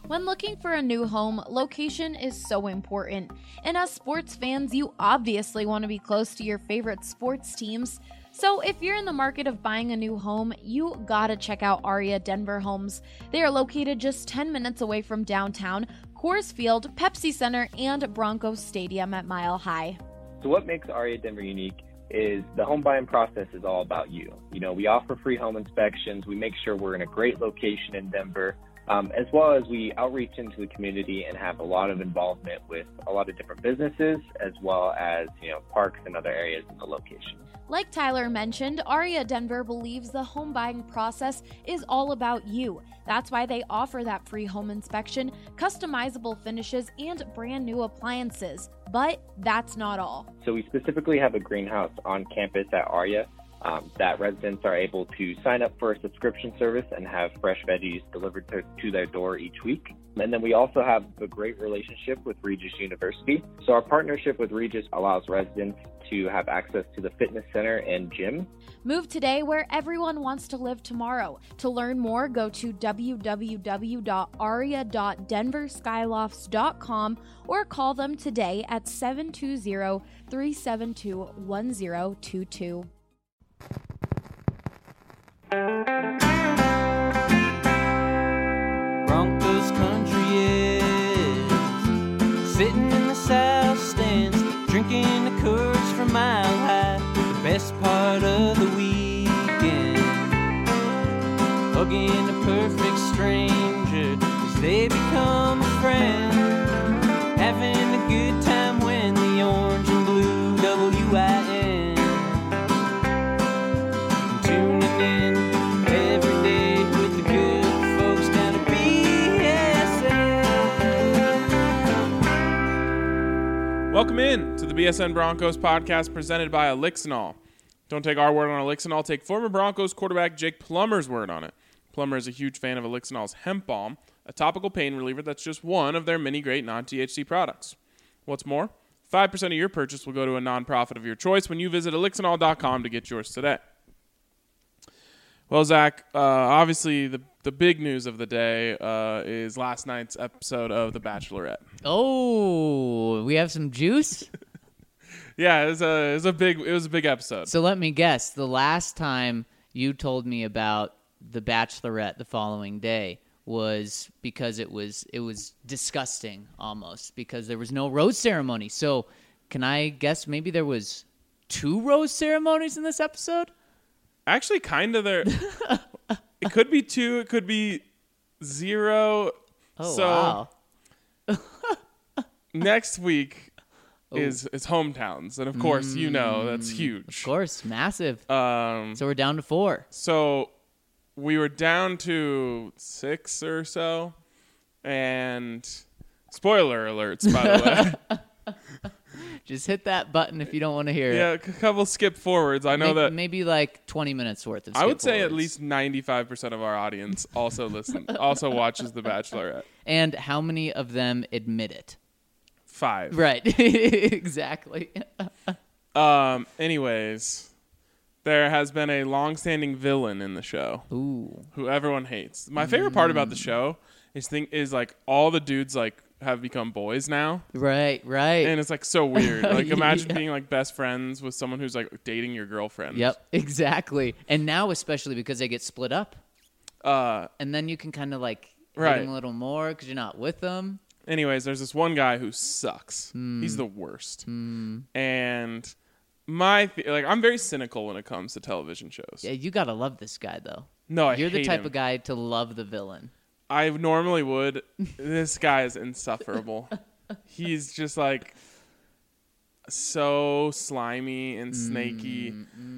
When looking for a new home, location is so important. And as sports fans, you obviously want to be close to your favorite sports teams. So if you're in the market of buying a new home, you gotta check out Aria Denver Homes. They are located just 10 minutes away from downtown, Coors Field, Pepsi Center, and Broncos Stadium at Mile High. So what makes Aria Denver unique is the home buying process is all about you. You know, we offer free home inspections. We make sure we're in a great location in Denver. As well as we outreach into the community and have a lot of involvement with a lot of different businesses, as well as, parks and other areas in the location. Like Tyler mentioned, Aria Denver believes the home buying process is all about you. That's why they offer that free home inspection, customizable finishes, and brand new appliances. But that's not all. So we specifically have a greenhouse on campus at Aria that residents are able to sign up for a subscription service and have fresh veggies delivered to their door each week. And then we also have a great relationship with Regis University. So our partnership with Regis allows residents to have access to the fitness center and gym. Move today where everyone wants to live tomorrow. To learn more, go to www.aria.denverskyloft's.com or call them today at 720-372-1022. Broncos country is sitting in the south stands, drinking the Coors from Mile High. The best part of the weekend, hugging a perfect stranger as they become a friend, having a good time when the orange and blue WIN. Tuning in every day with the good folks down at BSN. Welcome in to the BSN Broncos podcast presented by Elixinol. Don't take our word on Elixinol, take former Broncos quarterback Jake Plummer's word on it. Plummer is a huge fan of Elixinol's hemp balm, a topical pain reliever that's just one of their many great non-THC products. What's more, 5% of your purchase will go to a nonprofit of your choice when you visit Elixinol.com to get yours today. Well, Zach, obviously the big news of the day is last night's episode of The Bachelorette. Oh, we have some juice? Yeah, it was a big episode. So let me guess. The last time you told me about The Bachelorette the following day was because it was disgusting almost because there was no rose ceremony. So can I guess maybe there was 2 rose ceremonies in this episode? Actually, kind of there. It could be 2. It could be 0. Oh, so, wow. Next week is hometowns. And, of course, that's huge. Of course, massive. So we're down to 4. So we were down to 6 or so. And spoiler alerts, by the way. Just hit that button if you don't want to hear Yeah, it. a couple skip forwards. I know that maybe like 20 minutes worth of skip I would say at forwards. least 95% of our audience also watches The Bachelorette. And how many of them admit it? 5. Right. Exactly. Anyways, there has been a long-standing villain in the show. Ooh. Who everyone hates. My favorite part about the show is like all the dudes like have become boys now. Right. And it's like so weird. Like imagine Yeah. being like best friends with someone who's like dating your girlfriend. Yep, exactly. And now especially because they get split up. And then you can kind of like hit Right. them a little more because you're not with them. Anyways, there's this one guy who sucks. He's the worst. And I'm very cynical when it comes to television shows. Yeah, you got to love this guy, though. No, You're the hate type him. of guy to love the villain. I normally would. This guy is insufferable. He's just like so slimy and snaky.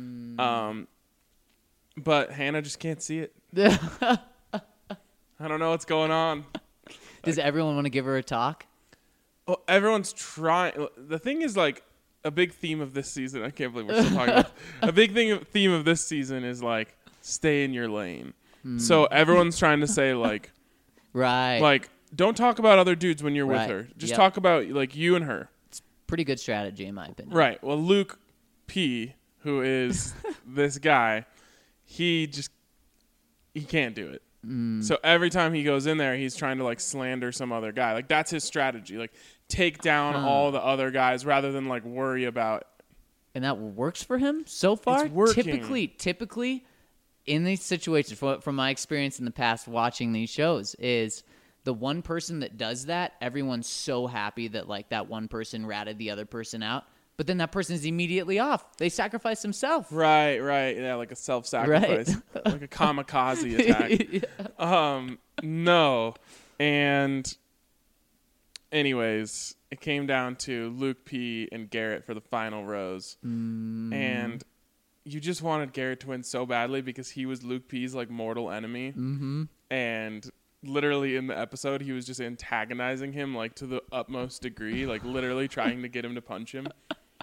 But Hannah just can't see it. I don't know what's going on. Does everyone want to give her a talk? Well, everyone's trying. The thing is, like, a big theme of this season. I can't believe we're still talking about this. A big theme of this season is like stay in your lane. So everyone's trying to say like, Right. like don't talk about other dudes when you're with Right. her. Just Yep. talk about like you and her. Pretty good strategy, in my opinion. Right. Well, Luke P, who is this guy, he can't do it. So every time he goes in there, he's trying to like slander some other guy. Like that's his strategy. Like take down all the other guys rather than like worry about. And that works for him so far? It's working. Typically in these situations, from my experience in the past watching these shows, is the one person that does that, everyone's so happy that like that one person ratted the other person out. But then that person is immediately off. They sacrifice themselves. Right. Yeah, like a self-sacrifice. Right. Like a kamikaze attack. Yeah. No. And anyways, it came down to Luke P. and Garrett for the final rose. And you just wanted Garrett to win so badly because he was Luke P.'s like mortal enemy. Mm-hmm. And literally in the episode, he was just antagonizing him like to the utmost degree, like literally trying to get him to punch him.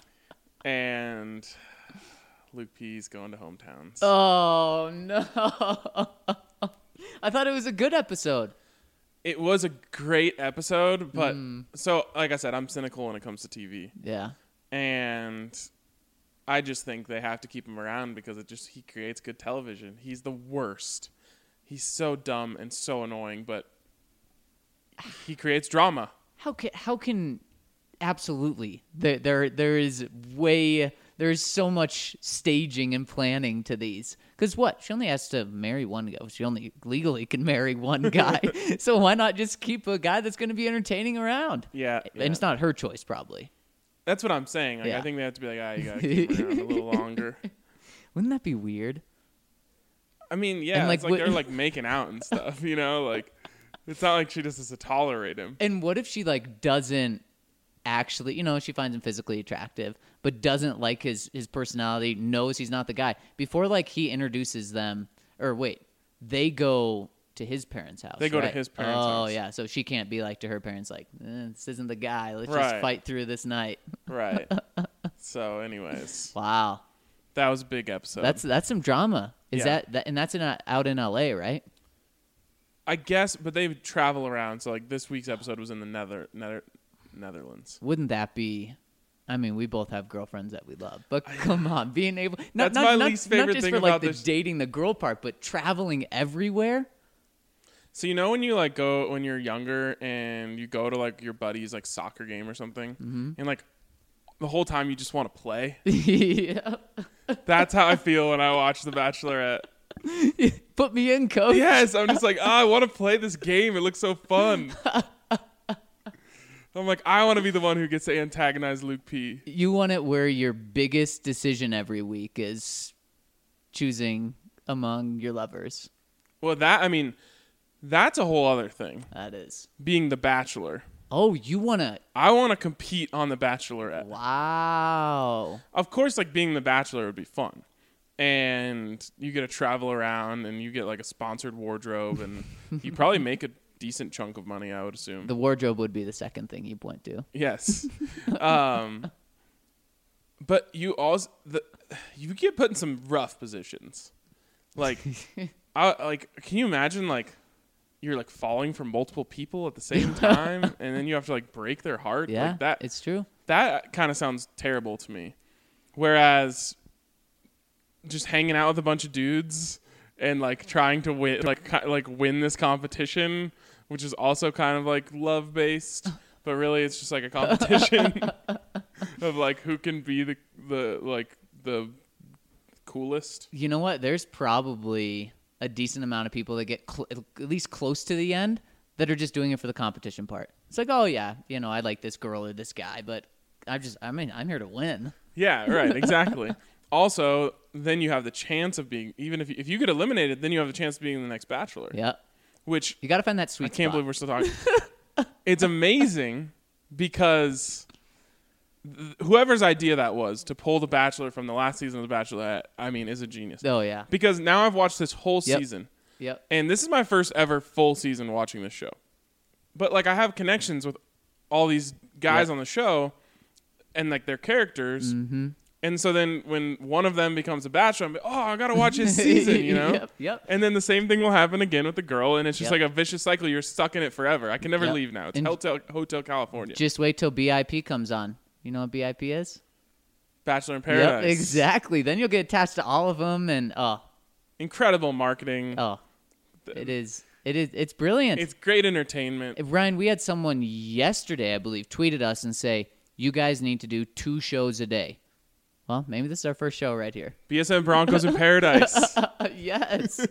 And Luke P.'s going to hometowns. Oh, no. I thought it was a good episode. It was a great episode, but so like I said, I'm cynical when it comes to TV. Yeah. And I just think they have to keep him around because he creates good television. He's the worst. He's so dumb and so annoying, but he creates drama. How can absolutely there's so much staging and planning to these. Because what? She only has to marry one guy. She only legally can marry one guy. So why not just keep a guy that's going to be entertaining around? Yeah. And it's not her choice, probably. That's what I'm saying. Like, Yeah. I think they have to be like, you got to keep him around a little longer. Wouldn't that be weird? I mean, yeah, And, it's like they're like making out and stuff, you know? Like, it's not like she just has to tolerate him. And what if she like doesn't actually, she finds him physically attractive, but doesn't like his personality, knows he's not the guy. Before like he introduces them, or wait, they go to his parents' house. They go to right? his parents' house. Oh, yeah. So she can't be like to her parents like, this isn't the guy. Let's Right. just fight through this night. Right. So, anyways, Wow. that was a big episode. That's some drama. Is Yeah. that and that's out in LA, right? I guess, but they travel around. So, like, this week's episode was in the Netherlands. Wouldn't that be? I mean, we both have girlfriends that we love, but come on, being able That's my least favorite not just thing for like about the this. dating the girl part, but traveling everywhere. So, you know when you, like, go when you're younger and you go to, like, your buddy's, like, soccer game or something, and, like, the whole time you just want to play? Yeah. That's how I feel when I watch The Bachelorette. Put me in, coach. Yes, I'm just like, I want to play this game. It looks so fun. I'm like, I want to be the one who gets to antagonize Luke P. You want it where your biggest decision every week is choosing among your lovers. Well, that's a whole other thing. That is. Being the Bachelor. Oh, you want to. I want to compete on The Bachelorette. Wow. Of course, like, being the Bachelor would be fun. And you get to travel around and you get, like, a sponsored wardrobe. And you probably make a decent chunk of money, I would assume. The wardrobe would be the second thing you point to. Yes. But you you get put in some rough positions. Like, can you imagine, like, you're, like, falling for multiple people at the same time, and then you have to, like, break their heart? Yeah, Like that, it's true. that kind of sounds terrible to me. Whereas just hanging out with a bunch of dudes and, like, trying to win this competition, which is also kind of, like, love-based, but really it's just, like, a competition of, like, who can be the coolest. You know what? There's probably a decent amount of people that get at least close to the end that are just doing it for the competition part. It's like, oh yeah, I like this girl or this guy, but I'm here to win. Yeah, right, exactly. Also, then you have the chance of being, even if you get eliminated, then you have the chance of being the next Bachelor. Yeah. Which You got to find that sweet I can't spot. believe we're still talking. It's amazing because whoever's idea that was to pull The Bachelor from the last season of The Bachelorette, is a genius. Oh yeah. Because now I've watched this whole Yep. season, Yep. and this is my first ever full season watching this show. But, like, I have connections with all these guys Yep. on the show and, like, their characters. Mm-hmm. And so then when one of them becomes a Bachelor, I'm like, oh, I got to watch his season, you know? Yep. And then the same thing will happen again with the girl, and it's just Yep. like a vicious cycle. You're stuck in it forever. I can never Yep. leave now. It's And- Hotel California. Just wait till BIP comes on. You know what BIP is? Bachelor in Paradise. Yep, exactly. Then you'll get attached to all of them, and Incredible marketing. scripted. It is. It's brilliant. It's great entertainment. Ryan, we had someone yesterday, I believe, tweeted us and say, you guys need to do 2 shows a day. Well, maybe this is our first show right here. BSN Broncos in Paradise. Yes.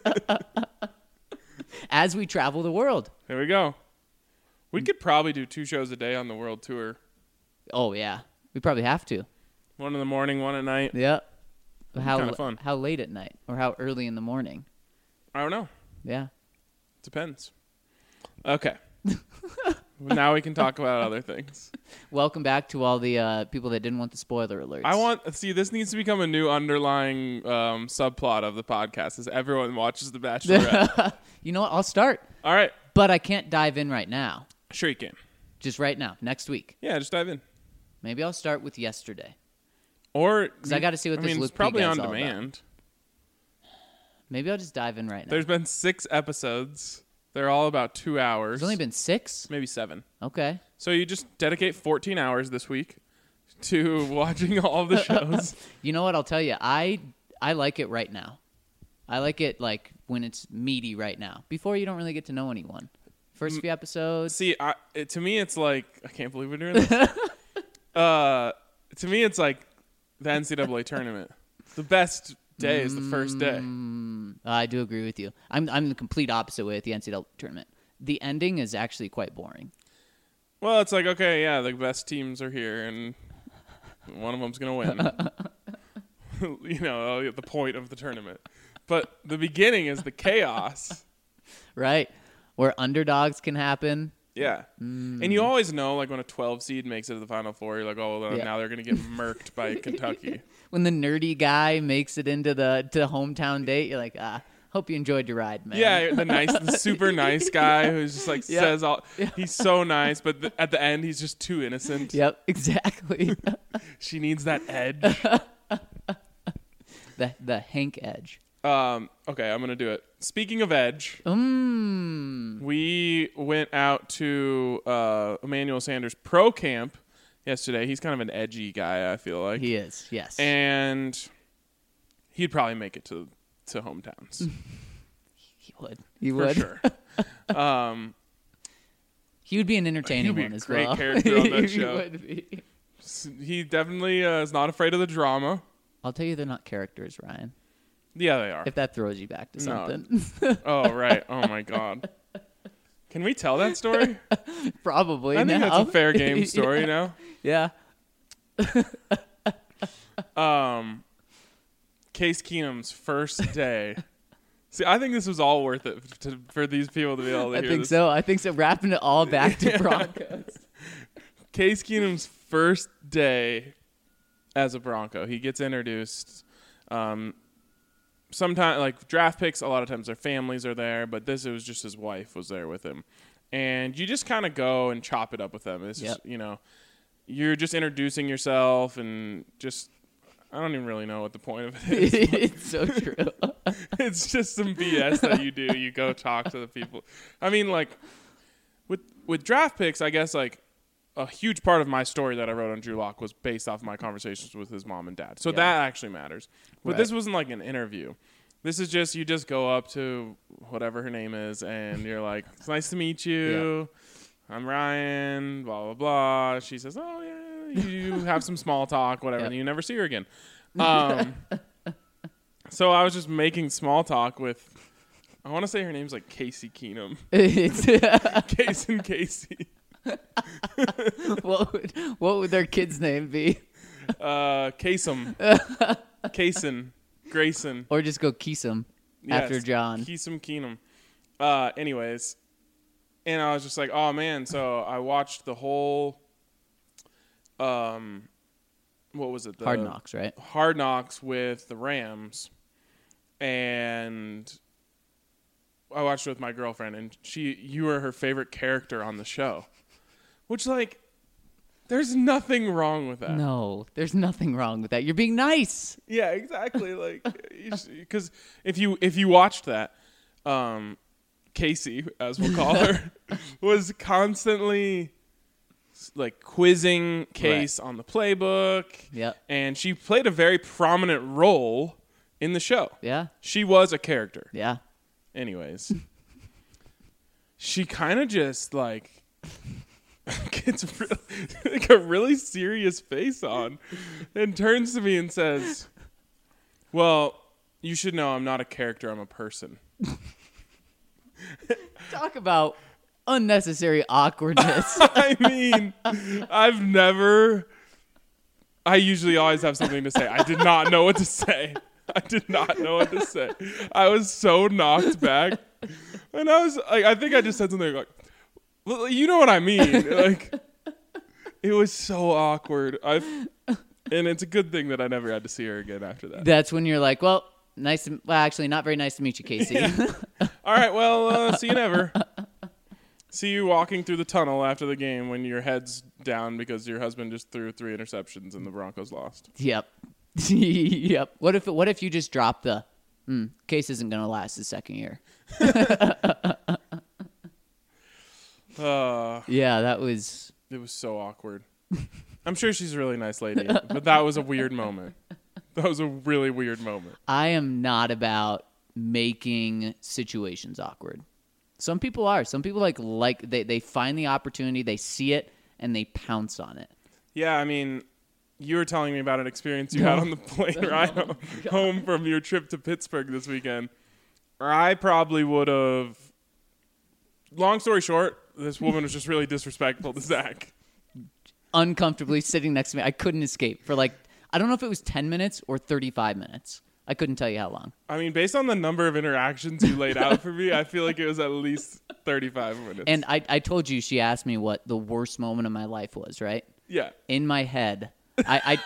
As we travel the world. There we go. We could probably do 2 shows a day on the world tour. Oh, yeah. We probably have to. 1 in the morning, 1 at night. Yep. Kinda fun. How late at night? Or how early in the morning? I don't know. Yeah. Depends. Okay. Now we can talk about other things. Welcome back to all the people that didn't want the spoiler alerts. This needs to become a new underlying subplot of the podcast is everyone watches The Bachelorette. You know what? I'll start. All right. But I can't dive in right now. Sure you can. Just right now. Next week. Yeah, just dive in. Maybe I'll start with yesterday. Or because I got to see what this it's Luke P probably guy's on all demand. about. Maybe I'll just dive in right now. There's been 6 episodes. They're all about 2 hours. There's only been 6? Maybe 7. Okay. So you just dedicate 14 hours this week to watching all the shows. You know what? I'll tell you. I like it right now. I like it like when it's meaty right now. Before you don't really get to know anyone. First few episodes. See, to me, it's like I can't believe we're doing this. To me, it's like the NCAA tournament. The best day is the first day. I do agree with you. I'm the complete opposite way at the NCAA tournament. The ending is actually quite boring. Well, it's like, okay, yeah, the best teams are here, and one of them's going to win. You know, the point of the tournament. But the beginning is the chaos. Right. Where underdogs can happen. Yeah. And you always know, like, when a 12 seed makes it to the Final Four, you're like, oh, well, now they're going to get murked by Kentucky. When the nerdy guy makes it into the hometown date, you're like, hope you enjoyed your ride, man. Yeah, the super nice guy who's just like says all. He's so nice, but at the end, he's just too innocent. Yep, exactly. She needs that edge. the Hank edge. Okay, I'm gonna do it. Speaking of edge, we went out to Emmanuel Sanders Pro Camp yesterday. He's kind of an edgy guy, I feel like. He is, yes. And he'd probably make it to hometowns. He would. For sure. He would be an entertaining one as well. He would be a great character on that show. He would be. He definitely is not afraid of the drama. I'll tell you they're not characters, Ryan. Yeah, they are. If that throws you back to something. Oh, right. Oh, my God. Can we tell that story? Probably. I think that's a fair game story now. Yeah. Case Keenum's first day. See, I think this was all worth it for these people to be able to hear this. I think so. Wrapping it all back to Broncos. Case Keenum's first day as a Bronco. He gets introduced. Sometimes, like, draft picks, a lot of times their families are there, but it was just his wife was there with him. And you just kind of go and chop it up with them. It's just, you're just introducing yourself and just, I don't even really know what the point of it is. It's so true. It's just some BS that you do. You go talk to the people. I mean, like, with draft picks, I guess, like, a huge part of my story that I wrote on Drew Lock was based off my conversations with his mom and dad. So that actually matters. But this wasn't like an interview. This is just, you just go up to whatever her name is and you're like, it's nice to meet you. Yeah. I'm Ryan, blah, blah, blah. She says, oh, yeah, you have some small talk, whatever, and you never see her again. So I was just making small talk with, I want to say her name's like Casey Keenum. Case and Casey. What would their kid's name be? Kasem. Kaysen. Grayson. Or just go Keesum after John. Keesum Keenum. Anyways. And I was just like, oh man, so I watched the whole what was it? Hard Knocks, right? Hard Knocks with the Rams. And I watched it with my girlfriend, and you were her favorite character on the show. Which, like, there's nothing wrong with that. No, there's nothing wrong with that. You're being nice. Yeah, exactly. Like, because if you watched that, Casey, as we'll call her, was constantly like quizzing Case on the playbook. Yep. And she played a very prominent role in the show. Yeah. She was a character. Yeah. Anyways, she kind of just like gets like a really serious face on and turns to me and says, well, you should know I'm not a character, I'm a person. Talk about unnecessary awkwardness. I mean, I usually always have something to say. I did not know what to say. I was so knocked back. And I was like, I think I just said something like, well, you know what I mean? Like, it was so awkward. And it's a good thing that I never had to see her again after that. That's when you're like, well, actually, not very nice to meet you, Casey. Yeah. All right, well, see you never. See you walking through the tunnel after the game when your head's down because your husband just threw 3 interceptions and the Broncos lost. Yep. Yep. What if you just drop the Case isn't going to last the second year? Yeah, that was... It was so awkward. I'm sure she's a really nice lady, but that was a weird moment. That was a really weird moment. I am not about making situations awkward. Some people are. Some people they find the opportunity, they see it, and they pounce on it. Yeah, I mean, you were telling me about an experience you had on the plane ride home from your trip to Pittsburgh this weekend. Or I probably would have... Long story short, this woman was just really disrespectful to Zach. Uncomfortably sitting next to me. I couldn't escape for I don't know if it was 10 minutes or 35 minutes. I couldn't tell you how long. I mean, based on the number of interactions you laid out for me, I feel like it was at least 35 minutes. And I told you she asked me what the worst moment of my life was, right? Yeah. In my head, I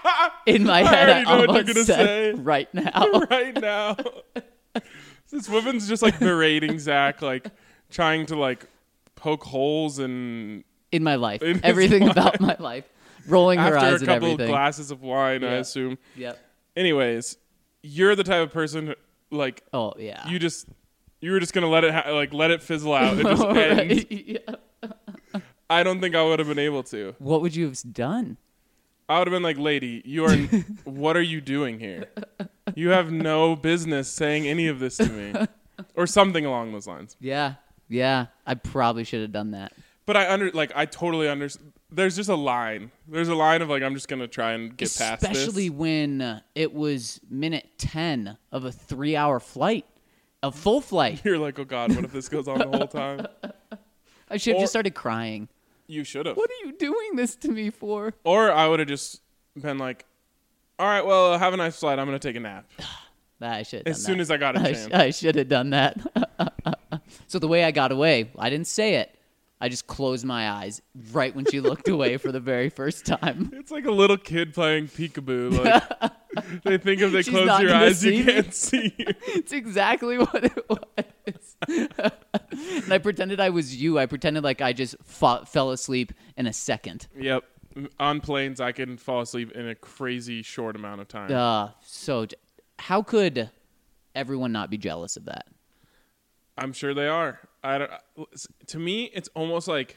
almost said right now. Right now. This woman's just berating Zach, trying to poke holes in my life. Everything about my life. Rolling her eyes at everything. After a couple of glasses of wine, I assume. Yep. Anyways, you're the type of person oh yeah. You were just gonna let it let it fizzle out and just end. Yeah. I don't think I would have been able to. What would you have done? I would have been like, lady, what are you doing here? You have no business saying any of this to me. Or something along those lines. Yeah. Yeah. I probably should have done that. But I totally understand. There's just a line. There's a line of I'm just going to try and get past this. Especially when it was minute 10 of a 3-hour flight. A full flight. You're like, oh God, what if this goes on the whole time? I should have just started crying. You should have. What are you doing this to me for? Or I would have just been like, all right, well, have a nice flight. I'm going to take a nap. I should have done that. As soon as I got a chance. I should have done that. So the way I got away, I didn't say it. I just closed my eyes right when she looked away for the very first time. It's like a little kid playing peekaboo. They think if they close your eyes, you can't see you. It's exactly what it was. And I pretended I was you. I pretended like I just fell asleep in a second. Yep. On planes, I can fall asleep in a crazy short amount of time. So how could everyone not be jealous of that? I'm sure they are. To me, it's almost like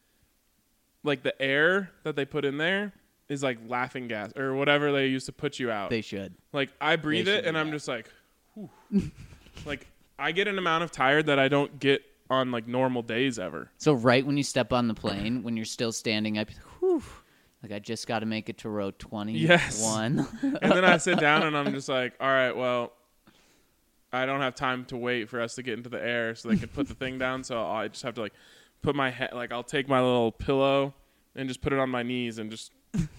the air that they put in there is like laughing gas or whatever they used to put you out. They should. I breathe it and I'm just like, whew. I get an amount of tired that I don't get on normal days ever. So right when you step on the plane, when you're still standing up, whew, I just got to make it to row 21. Yes. And then I sit down and I'm just like, all right, well, I don't have time to wait for us to get into the air so they can put the thing down. So I just have to put my head, I'll take my little pillow and just put it on my knees and just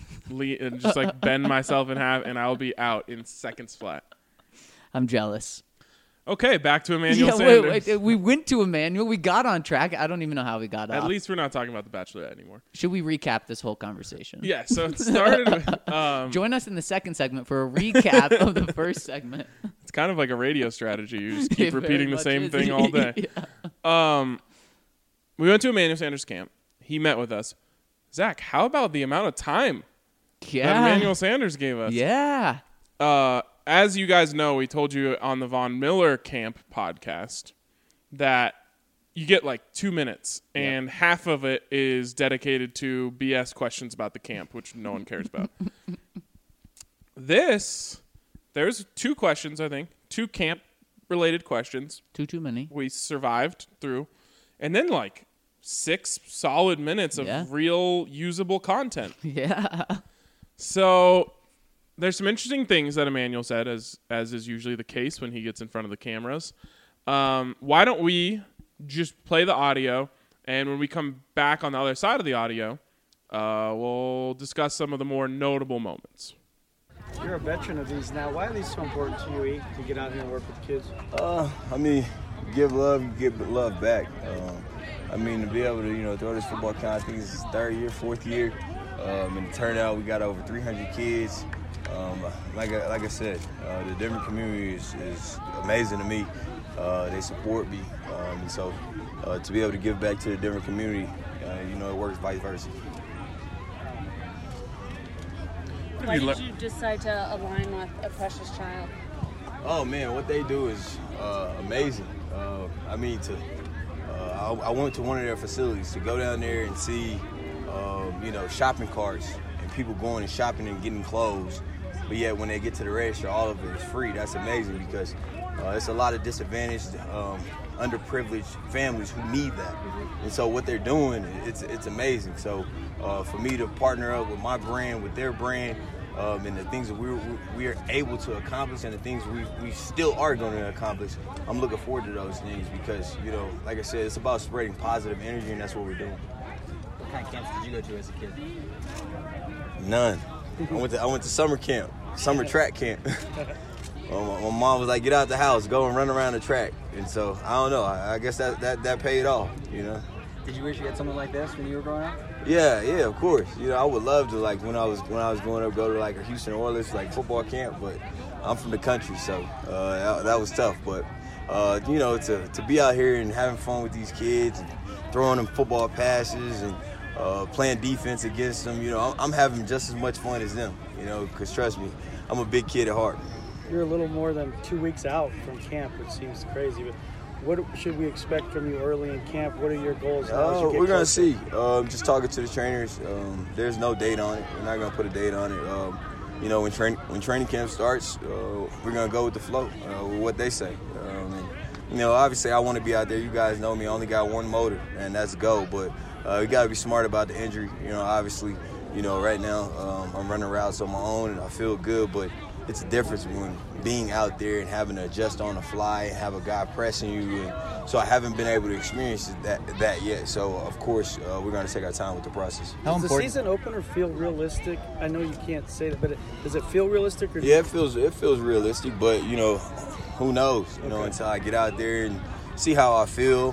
bend myself in half and I'll be out in seconds flat. I'm jealous. Okay, back to Emmanuel Sanders. Wait, we went to Emmanuel. We got on track. I don't even know how we got off. At least we're not talking about The Bachelorette anymore. Should we recap this whole conversation? Yeah, so it started with... Join us in the second segment for a recap of the first segment. It's kind of like a radio strategy. You just keep repeating the same thing all day. Yeah. We went to Emmanuel Sanders' camp. He met with us. Zach, how about the amount of time that Emmanuel Sanders gave us? Yeah. As you guys know, we told you on the Von Miller Camp podcast that you get 2 minutes, and half of it is dedicated to BS questions about the camp, which no one cares about. There's 2 questions, I think, 2 camp-related questions. Too many. We survived through, and then like 6 solid minutes of real usable content. Yeah. So there's some interesting things that Emmanuel said, as is usually the case when he gets in front of the cameras. Why don't we just play the audio, and when we come back on the other side of the audio, we'll discuss some of the more notable moments. You're a veteran of these now. Why are these so important to you, to get out here and work with kids? I mean, give love, you get love back. I mean, to be able to, throw this football camp, I think it's his 3rd year, 4th year. And the turnout, we got over 300 kids. Like I said, the Denver community is amazing to me. They support me. And so to be able to give back to the Denver community, it works vice versa. Why did you decide to align with A Precious Child? Oh man, what they do is amazing. I went to one of their facilities to go down there and see, shopping carts and people going and shopping and getting clothes. But yet when they get to the register, all of it is free. That's amazing because it's a lot of disadvantaged, underprivileged families who need that. And so what they're doing, it's amazing. So for me to partner up with my brand, with their brand, and the things that we are able to accomplish and the things we still are going to accomplish, I'm looking forward to those things because, like I said, it's about spreading positive energy, and that's what we're doing. What kind of camps did you go to as a kid? None. I went to summer camp, summer track camp. My mom was like, get out the house, go and run around the track. And so, I don't know, I guess that paid off, Did you wish you had something like this when you were growing up? Yeah, of course. I would love to, like, when I was growing up, go to, like, a Houston Oilers, like, football camp, but I'm from the country, so that was tough. But, to be out here and having fun with these kids and throwing them football passes and playing defense against them, I'm having just as much fun as them, because trust me, I'm a big kid at heart. You're a little more than 2 weeks out from camp, which seems crazy, but what should we expect from you early in camp? What are your goals? We're going to see. Just talking to the trainers, there's no date on it. We're not going to put a date on it. When training camp starts, we're going to go with the flow, with what they say. Obviously I want to be out there. You guys know me. I only got one motor, and that's go. But we got to be smart about the injury. Obviously, right now I'm running routes on my own, and I feel good, but it's a difference when being out there and having to adjust on the fly and have a guy pressing you. And so I haven't been able to experience that yet. So, of course, we're going to take our time with the process. Does the season opener feel realistic? I know you can't say that, but does it feel realistic? Yeah, it feels realistic, but, who knows, until I get out there and see how I feel.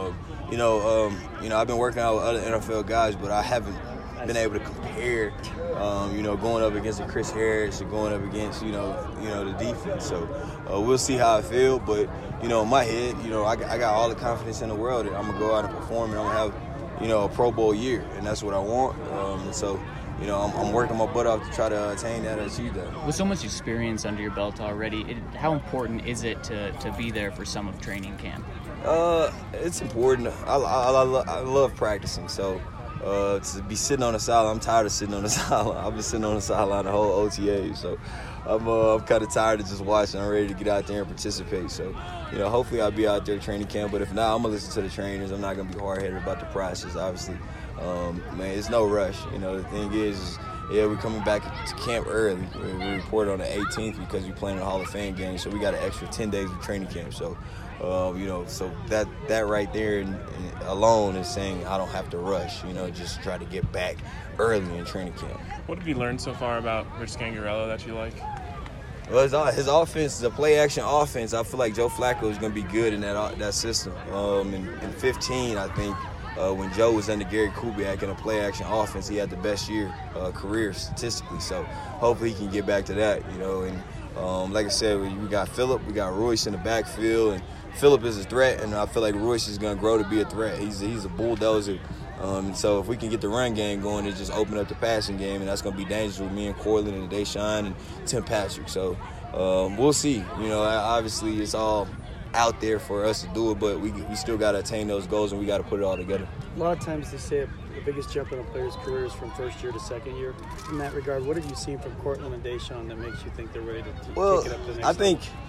I've been working out with other NFL guys, but I haven't been able to compare, going up against Chris Harris or going up against, the defense. So we'll see how I feel. But, in my head, I got all the confidence in the world that I'm going to go out and perform and I'm going to have, a Pro Bowl year. And that's what I want. And so, I'm working my butt off to try to attain that and achieve that. With so much experience under your belt already, how important is it to be there for some of training camp? It's important. I love practicing. So to be sitting on the sideline, I'm tired of sitting on the sideline. I've been sitting on the sideline the whole OTA. So I'm kind of tired of just watching. I'm ready to get out there and participate. So, hopefully I'll be out there training camp. But if not, I'm going to listen to the trainers. I'm not going to be hard-headed about the process, obviously. It's no rush. The thing is we're coming back to camp early. We report on the 18th because we're playing the Hall of Fame game. So we got an extra 10 days of training camp. So, so that right there alone is saying I don't have to rush, just try to get back early in training camp. What have you learned so far about Rich Scangarello that you like? Well, his offense is a play-action offense. I feel like Joe Flacco is going to be good in that system. In 15, I think, when Joe was under Gary Kubiak in a play-action offense, he had the best year career statistically. So hopefully he can get back to that, And like I said, we got Phillip, we got Royce in the backfield, and Phillip is a threat, and I feel like Royce is going to grow to be a threat. He's a bulldozer. So if we can get the run game going, it just open up the passing game, and that's going to be dangerous with me and Cortland and Deshaun and Tim Patrick. So we'll see. Obviously it's all out there for us to do it, but we still got to attain those goals, and we got to put it all together. A lot of times they say the biggest jump in a player's career is from first year to second year. In that regard, what have you seen from Cortland and Deshaun that makes you think they're ready to take it up to the next level?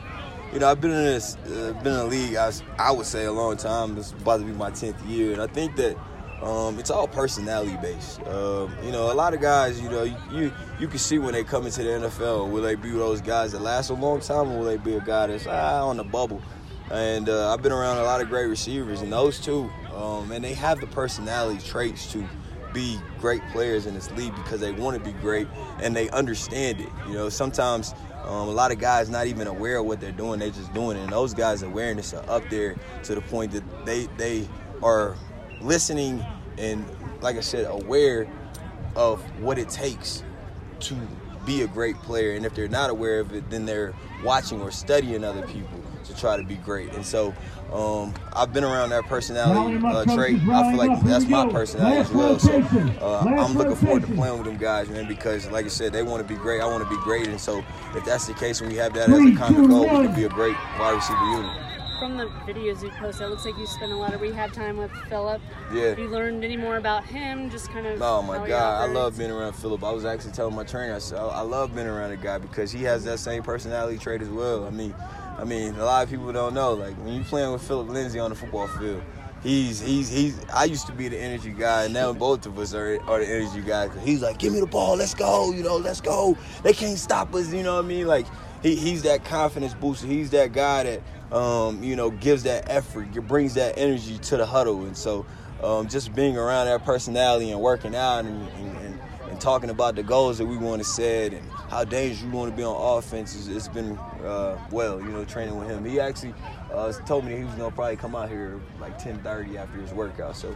you know, I've been in the league, I would say, a long time. This is about to be my 10th year, and I think that it's all personality based. You know, a lot of guys, you know, you can see when they come into the NFL, will they be those guys that last a long time, or will they be a guy that's on the bubble? And I've been around a lot of great receivers, and those two, and they have the personality traits to be great players in this league because they want to be great and they understand it. You know, sometimes a lot of guys not even aware of what they're doing, they just doing it. And those guys' awareness are up there to the point that they are listening and, like I said, aware of what it takes to be a great player. And if they're not aware of it, then they're watching or studying other people to try to be great. And so I've been around that personality trait. I feel like that's my personality as well. So I'm looking forward to playing with them guys, man, because like I said, they want to be great. I want to be great. And so if that's the case, when we have that as a common goal, we can be a great wide receiver unit. From the videos you posted, it looks like you spent a lot of rehab time with Philip. Yeah. Have you learned any more about him? Just kind of. Oh my God, I love being around Philip. I was actually telling my trainer, I said, I love being around a guy because he has that same personality trait as well. I mean, a lot of people don't know. Like when you're playing with Philip Lindsay on the football field, he's. I used to be the energy guy, and now both of us are the energy guys. He's like, give me the ball, let's go, you know, let's go. They can't stop us, you know what I mean? Like he's that confidence booster. He's that guy that. You know, gives that effort, brings that energy to the huddle. And so just being around that personality and working out and talking about the goals that we want to set and how dangerous we want to be on offense, it's been, you know, training with him. He actually told me that he was going to probably come out here like 10:30 after his workout. So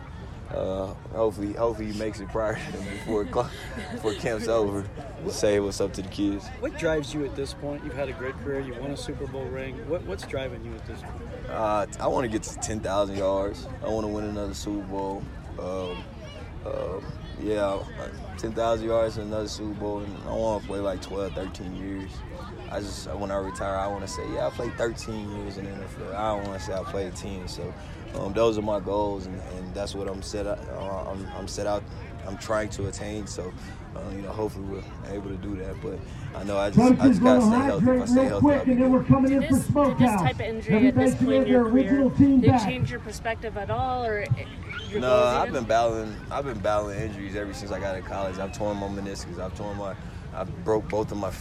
hopefully he makes it prior before camp's over. Say what's up to the kids. What drives you at this point? You've had a great career. You won a Super Bowl ring. What's driving you at this point? I want to get to 10,000 yards. I want to win another Super Bowl. 10,000 yards and another Super Bowl. And I want to play like 12, 13 years. When I retire, I want to say, I played 13 years in the NFL. I don't want to say I played 10. So those are my goals, and that's what I'm trying to attain. So, you know, hopefully we're able to do that. But I know I just got to stay healthy. If I stay healthy, Did this type of injury at this point in your career, did it change your perspective at all, or your No, goals I've even? been battling injuries ever since I got out of college. I've torn my meniscus. I broke both of my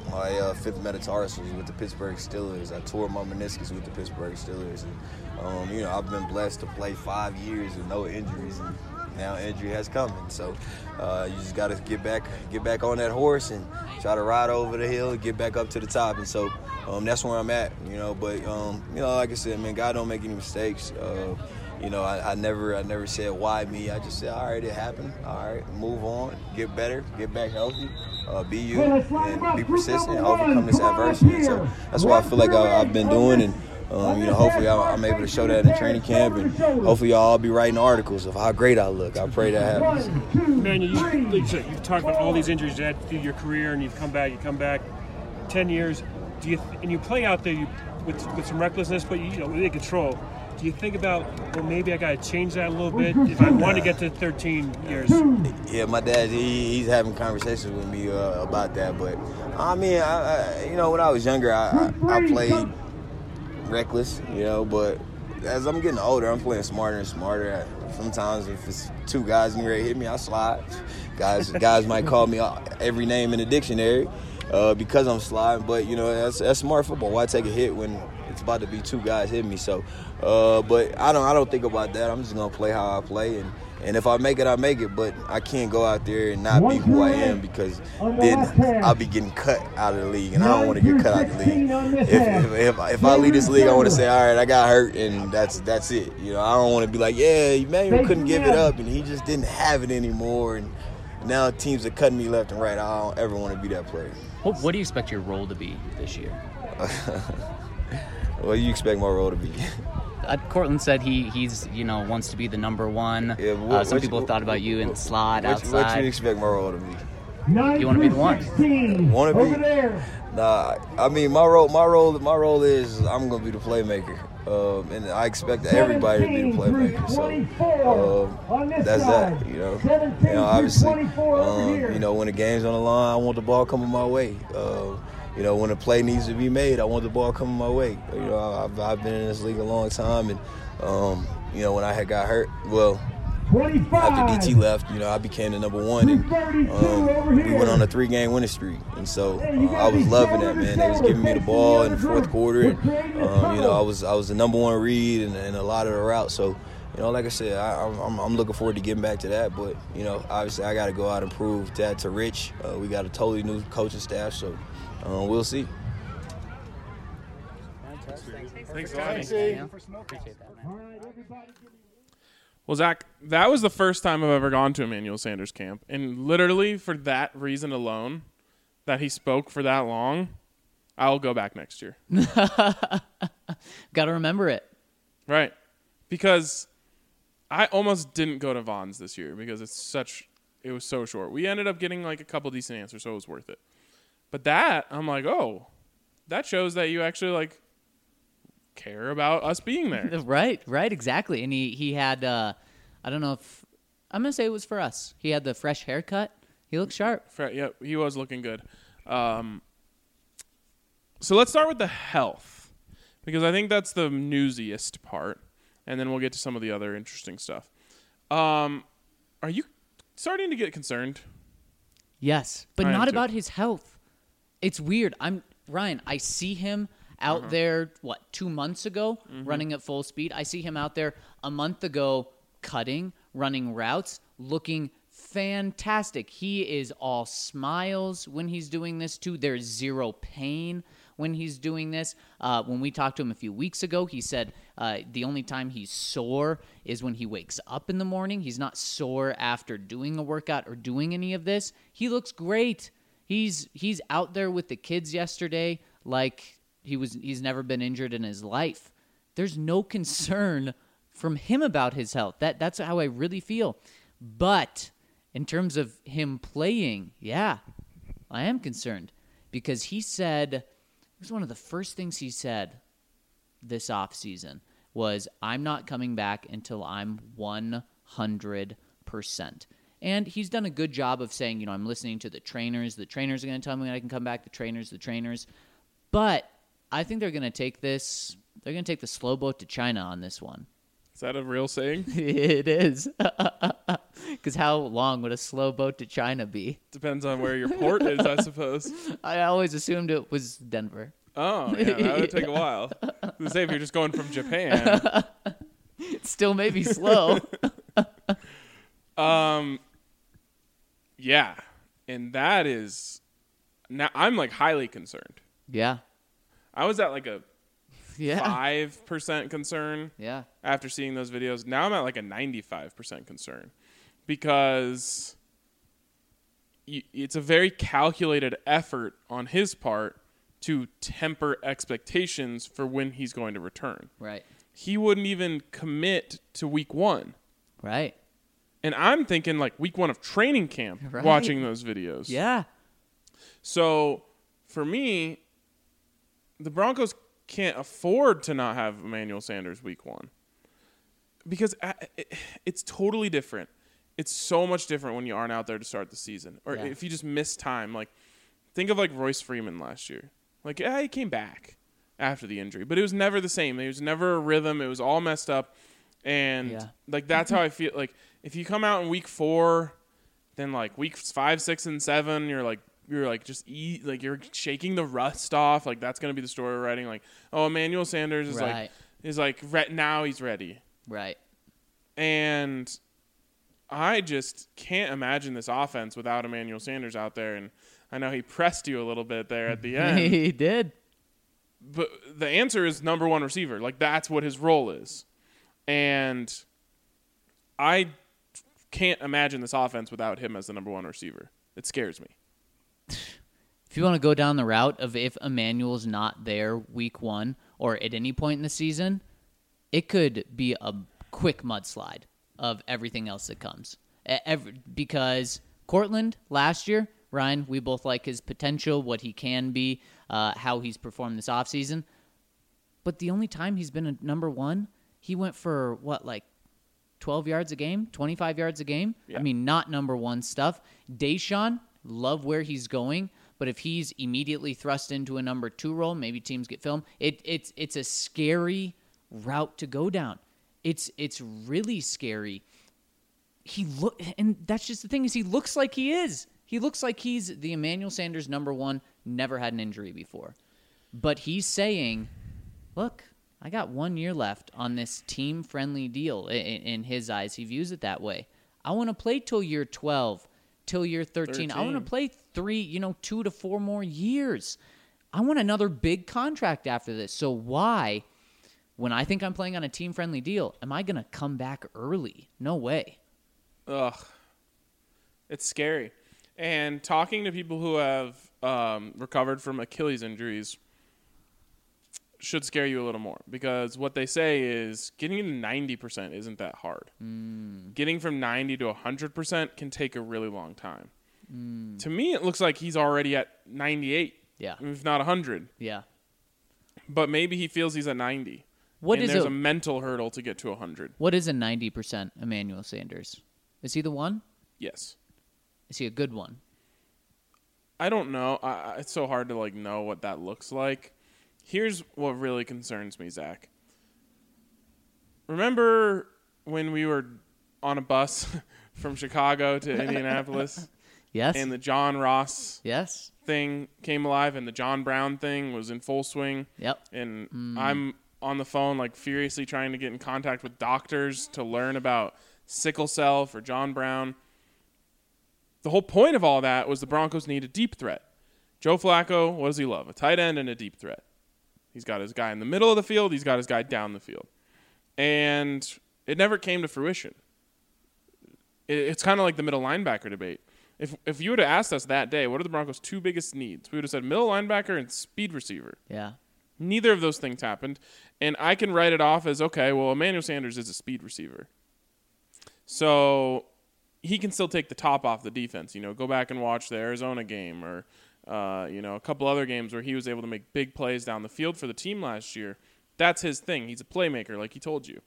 fifth metatarsals with the Pittsburgh Steelers. I tore my meniscus with the Pittsburgh Steelers. And, you know, I've been blessed to play 5 years with no injuries, and now injury has come. And so you just got to get back on that horse and try to ride over the hill and get back up to the top. And so that's where I'm at, you know. But, you know, like I said, man, God don't make any mistakes. You know, I never said why me. I just said, all right, it happened. All right, move on, get better, get back healthy, be you, and be persistent, overcome this adversity. And so that's what I feel like I've been doing. And, you know, hopefully I'm able to show that in the training camp. And hopefully y'all all be writing articles of how great I look. I pray that happens. Man, you've talked about all these injuries you had through your career, and you come back 10 years. And you play out there with some recklessness, but you know, with control. Do you think about, well, maybe I got to change that a little bit if I want to get to 13 years? Yeah, my dad, he's having conversations with me about that. But, I mean, you know, when I was younger, I played reckless, you know. But as I'm getting older, I'm playing smarter and smarter. Sometimes if it's two guys getting ready to hit me, I slide. Guys might call me every name in the dictionary because I'm sliding. But, you know, that's smart football. Why take a hit when it's about to be two guys hitting me? So, but I don't think about that. I'm just gonna play how I play, and if I make it, I make it. But I can't go out there and not be who I am, because then I'll be getting cut out of the league, and I don't want to get cut out of the league. If I leave this league, I want to say, all right, I got hurt, and that's it. You know, I don't want to be like, yeah, Emmanuel couldn't give it up, and he just didn't have it anymore, and now teams are cutting me left and right. I don't ever want to be that player. What do you expect your role to be this year? What do you expect my role to be? Cortland said he's wants to be the number one. Yeah, some people have thought about you in the slot, outside. What you expect my role to be? You want to be the one? Want to be? Nah, I mean my role is I'm gonna be the playmaker, and I expect everybody to be the playmaker. So that's that. You know, obviously, you know, when the game's on the line, I want the ball coming my way. when a play needs to be made, I want the ball coming my way. I've been in this league a long time, and when I had got hurt, after DT left, I became the number one, and we went on a 3-game winning streak, and so I was loving that, man. They was giving me the ball in the fourth quarter, and I was the number one read and a lot of the routes. So, like I said, I'm looking forward to getting back to that. But obviously, I got to go out and prove that to Rich. We got a totally new coaching staff, so we'll see. Thanks, Lonnie. Well, Zach, that was the first time I've ever gone to Emmanuel Sanders camp. And literally for that reason alone, that he spoke for that long, I'll go back next year. Got to remember it. Right. Because I almost didn't go to Vaughn's this year because it was so short. We ended up getting like a couple decent answers, so it was worth it. But that, I'm like, oh, that shows that you actually like care about us being there. Right, exactly. And he had, I don't know if, I'm going to say it was for us. He had the fresh haircut. He looked sharp. Yeah, he was looking good. So let's start with the health, because I think that's the newsiest part, and then we'll get to some of the other interesting stuff. Are you starting to get concerned? Yes, but not about his health. It's weird. Ryan, I see him out there, 2 months ago, running at full speed. I see him out there a month ago cutting, running routes, looking fantastic. He is all smiles when he's doing this, too. There's zero pain when he's doing this. When we talked to him a few weeks ago, he said the only time he's sore is when he wakes up in the morning. He's not sore after doing a workout or doing any of this. He looks great. He's out there with the kids yesterday like he's never been injured in his life. There's no concern from him about his health. That's how I really feel. But in terms of him playing, yeah, I am concerned, because he said, it was one of the first things he said this offseason was, I'm not coming back until I'm 100%. And he's done a good job of saying, I'm listening to the trainers. The trainers are going to tell me when I can come back. The trainers. But I think they're going to take the slow boat to China on this one. Is that a real saying? It is. Because how long would a slow boat to China be? Depends on where your port is, I suppose. I always assumed it was Denver. Oh, yeah, that would take a while. I was going to say, if you're just going from Japan. It still may be slow. Yeah. And that is, now I'm like highly concerned. Yeah. I was at like a 5% concern after seeing those videos. Now I'm at like a 95% concern, because it's a very calculated effort on his part to temper expectations for when he's going to return. Right. He wouldn't even commit to week 1. Right. And I'm thinking like week 1 of training camp, watching those videos. Yeah. So for me, the Broncos can't afford to not have Emmanuel Sanders week 1, because it's totally different. It's so much different when you aren't out there to start the season, or if you just miss time. Like, think of like Royce Freeman last year. Like, he came back after the injury, but it was never the same. It was never a rhythm. It was all messed up. And like, that's how I feel. Like, if you come out in week 4, then like weeks 5, 6, and 7, you're like you're shaking the rust off. Like, that's gonna be the story we're writing. Like, oh, Emmanuel Sanders is now he's ready. Right. And I just can't imagine this offense without Emmanuel Sanders out there. And I know he pressed you a little bit there at the end. He did. But the answer is number 1 receiver. Like, that's what his role is. And I can't imagine this offense without him as the number 1 receiver. It scares me. If you want to go down the route of if Emmanuel's not there week 1 or at any point in the season, it could be a quick mudslide of everything else that comes. Because Cortland last year, Ryan, we both like his potential, what he can be, how he's performed this offseason. But the only time he's been a number 1, he went for 12 yards a game, 25 yards a game? Yeah. I mean, not number 1 stuff. Deshaun, love where he's going, but But if he's immediately thrust into a number 2 role, maybe teams get film. It's a scary route to go down. It's really scary. And that's just the thing, is he looks like he is. He looks like he's the Emmanuel Sanders number 1, never had an injury before. But he's saying, look, I got 1 year left on this team-friendly deal. In his eyes, he views it that way. I want to play till year 12, till year 13. I want to play 2 to 4 more years. I want another big contract after this. So why, when I think I'm playing on a team-friendly deal, am I going to come back early? No way. Ugh. It's scary. And talking to people who have recovered from Achilles injuries should scare you a little more, because what they say is getting to 90% isn't that hard. Getting from 90 to 100% can take a really long time. To me, it looks like he's already at 98, if not 100. Yeah. But maybe he feels he's at 90. There's a mental hurdle to get to 100. What is a 90% Emmanuel Sanders? Is he the one? Yes. Is he a good one? I don't know. It's so hard to know what that looks like. Here's what really concerns me, Zach. Remember when we were on a bus from Chicago to Indianapolis? Yes. And the John Ross yes. thing came alive, and the John Brown thing was in full swing. Yep. And I'm on the phone furiously trying to get in contact with doctors to learn about sickle cell for John Brown. The whole point of all that was the Broncos need a deep threat. Joe Flacco, what does he love? A tight end and a deep threat. He's got his guy in the middle of the field. He's got his guy down the field. And it never came to fruition. It's kind of like the middle linebacker debate. If you would have asked us that day, what are the Broncos' 2 biggest needs? We would have said middle linebacker and speed receiver. Yeah. Neither of those things happened. And I can write it off as, okay, well, Emmanuel Sanders is a speed receiver. So he can still take the top off the defense. Go back and watch the Arizona game or a couple other games where he was able to make big plays down the field for the team last year. That's his thing. He's a playmaker, like he told you.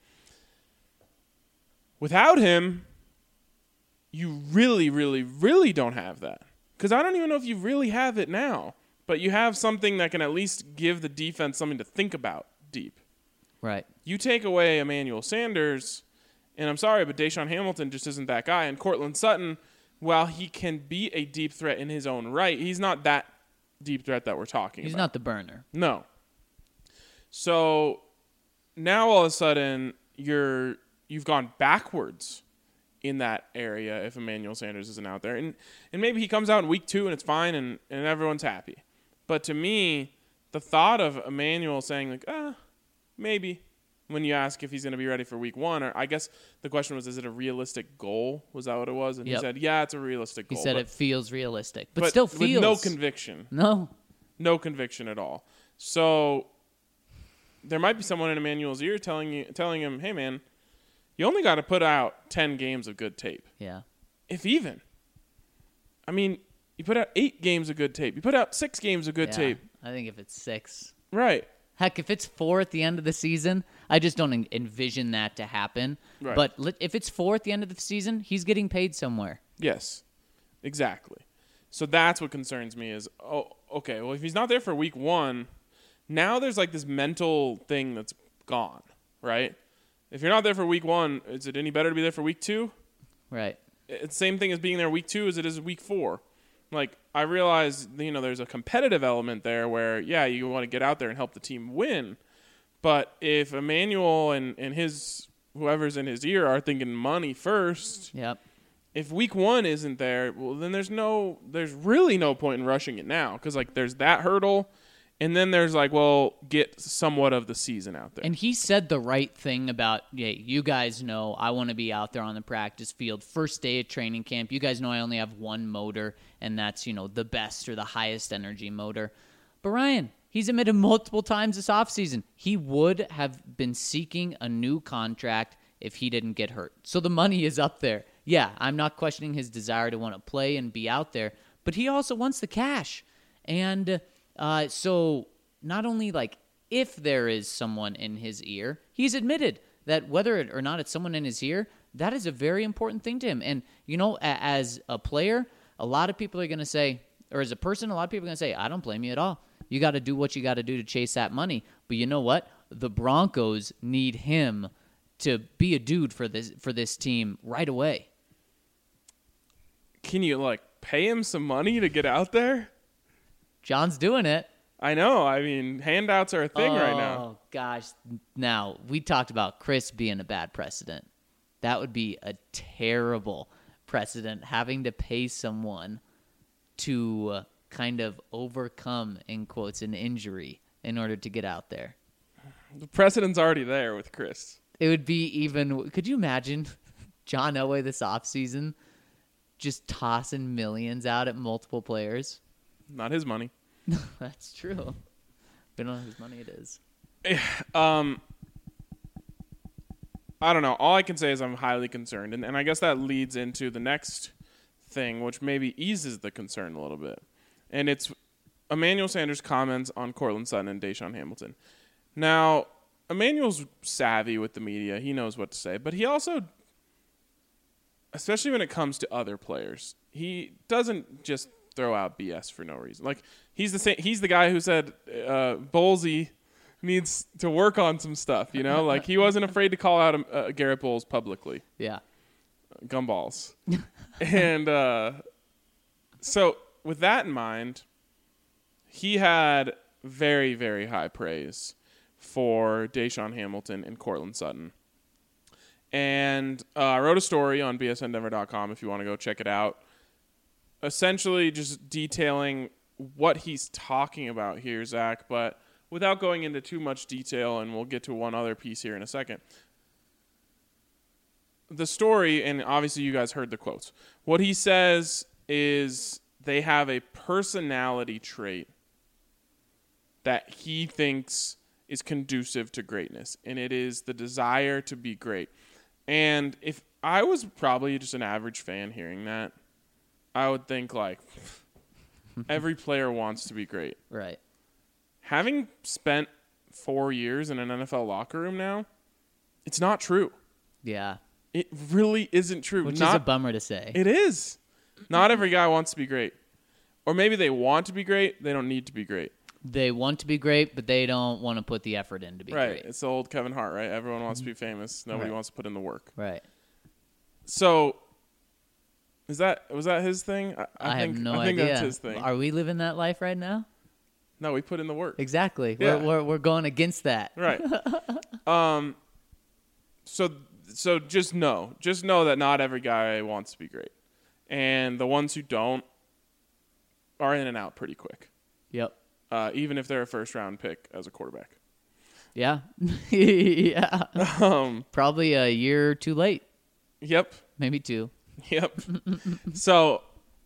Without him, you really, really, really don't have that. Because I don't even know if you really have it now. But you have something that can at least give the defense something to think about deep. Right. You take away Emmanuel Sanders, and I'm sorry, but Deshaun Hamilton just isn't that guy. And Cortland Sutton, while he can be a deep threat in his own right, he's not that deep threat that we're talking about. He's not the burner. No. So now all of a sudden you've gone backwards in that area if Emmanuel Sanders isn't out there. And maybe he comes out in week 2 and it's fine and everyone's happy. But to me, the thought of Emmanuel saying maybe, when you ask if he's going to be ready for week 1, or I guess the question was, is it a realistic goal? Was that what it was? And he said, yeah, it's a realistic goal. He said it feels realistic, but still feels. With no conviction. No conviction at all. So there might be someone in Emmanuel's ear telling him, hey, man, you only got to put out 10 games of good tape. Yeah. If even. I mean, you put out 8 games of good tape. You put out 6 games of good tape. I think if it's 6. Right. Heck, if it's 4 at the end of the season, I just don't envision that to happen. Right. But if it's 4 at the end of the season, he's getting paid somewhere. Yes, exactly. So that's what concerns me is, okay, well, if he's not there for week 1, now there's this mental thing that's gone, right? If you're not there for week 1, is it any better to be there for week 2? Right. It's the same thing as being there week 2 as it is week 4. I realize, there's a competitive element there where, yeah, you want to get out there and help the team win. But if Emmanuel and his whoever's in his ear are thinking money first, yep. If week 1 isn't there, well, then there's really no point in rushing it now because there's that hurdle, and then there's get somewhat of the season out there. And he said the right thing about, you guys know I want to be out there on the practice field first day of training camp. You guys know I only have one motor, and that's the best or the highest energy motor. But Ryan, he's admitted multiple times this offseason he would have been seeking a new contract if he didn't get hurt. So the money is up there. Yeah, I'm not questioning his desire to want to play and be out there, but he also wants the cash. And so not only if there is someone in his ear, he's admitted that whether or not it's someone in his ear, that is a very important thing to him. And, as a player, a lot of people are going to say, or as a person, a lot of people are going to say, I don't blame you at all. You got to do what you got to do to chase that money. But you know what? The Broncos need him to be a dude for this team right away. Can you pay him some money to get out there? John's doing it. I know. I mean, handouts are a thing right now. Oh gosh. Now, we talked about Chris being a bad precedent. That would be a terrible precedent, having to pay someone to kind of overcome, in quotes, an injury in order to get out there. The precedent's already there with Chris. It would be even. Could you imagine John Elway this offseason just tossing millions out at multiple players? Not his money. That's true. But on whose money it is. I don't know. All I can say is I'm highly concerned. And I guess that leads into the next thing, which maybe eases the concern a little bit. And it's Emmanuel Sanders' comments on Courtland Sutton and Deshaun Hamilton. Now, Emmanuel's savvy with the media. He knows what to say. But he also, especially when it comes to other players, he doesn't just throw out BS for no reason. He's the guy who said Bowlesy needs to work on some stuff, he wasn't afraid to call out Garrett Bowles publicly. Yeah. Gumballs. And so with that in mind, he had very, very high praise for Deshaun Hamilton and Courtland Sutton. And I wrote a story on bsndenver.com if you want to go check it out, essentially just detailing what he's talking about here, Zach, but without going into too much detail, and we'll get to one other piece here in a second. The story, and obviously you guys heard the quotes, what he says is they have a personality trait that he thinks is conducive to greatness, and it is the desire to be great. And if I was probably just an average fan hearing that, I would think every player wants to be great. Right. Having spent 4 years in an NFL locker room now, it's not true. Yeah. It really isn't true. Which is a bummer to say. It is. Not every guy wants to be great. Or maybe they want to be great. They don't need to be great. They want to be great, but they don't want to put the effort in to be great. Right. It's the old Kevin Hart, right? Everyone wants to be famous. Nobody wants to put in the work. Right. So, was that his thing? I have no idea. I think that's his thing. Are we living that life right now? No, we put in the work. Exactly. Yeah. We're going against that. Right. So just know that not every guy wants to be great, and the ones who don't are in and out pretty quick. Yep. Even if they're a first-round pick as a quarterback. Yeah. Yeah. Probably a year too late. Yep. Maybe 2. Yep. So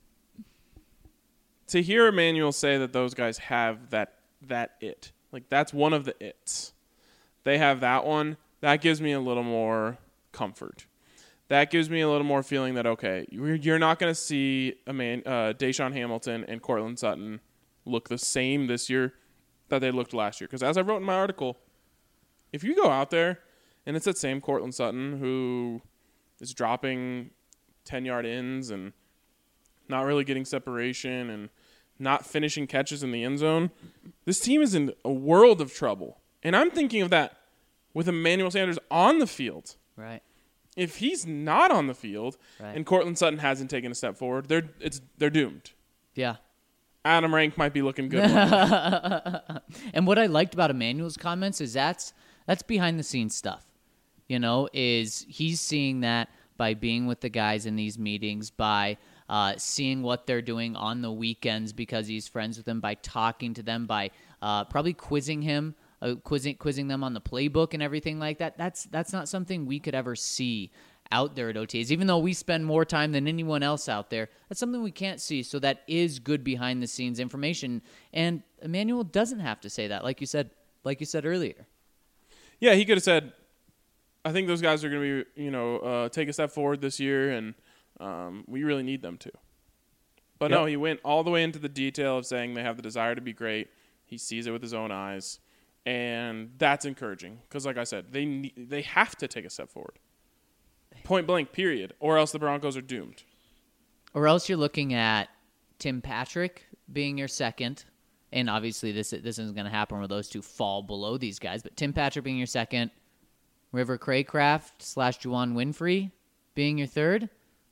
to hear Emmanuel say that those guys have that it, that's one of the its. They have that one. That gives me a little more comfort. That gives me a little more feeling that, okay, you're not going to see Deshaun Hamilton and Courtland Sutton look the same this year that they looked last year. Because as I wrote in my article, if you go out there and it's that same Courtland Sutton who is dropping 10-yard ins and not really getting separation and not finishing catches in the end zone, this team is in a world of trouble. And I'm thinking of that with Emmanuel Sanders on the field. Right. If he's not on the field and Courtland Sutton hasn't taken a step forward, they're doomed. Yeah. Adam Rank might be looking good. And what I liked about Emmanuel's comments is that's behind the scenes stuff. Is he's seeing that by being with the guys in these meetings, by seeing what they're doing on the weekends because he's friends with them, by talking to them, by probably quizzing him. Quizzing them on the playbook and everything like that. That's not something we could ever see out there at OTAs. Even though we spend more time than anyone else out there, that's something we can't see. So that is good behind the scenes information. And Emmanuel doesn't have to say that, like you said earlier. Yeah, he could have said, "I think those guys are going to be, take a step forward this year, and we really need them to." But no, he went all the way into the detail of saying they have the desire to be great. He sees it with his own eyes. And that's encouraging because, like I said, they have to take a step forward. Point blank, period. Or else the Broncos are doomed. Or else you're looking at Tim Patrick being your second, and obviously this isn't going to happen where those two fall below these guys, but Tim Patrick being your second, River Craycraft / Juwan Winfrey being your third.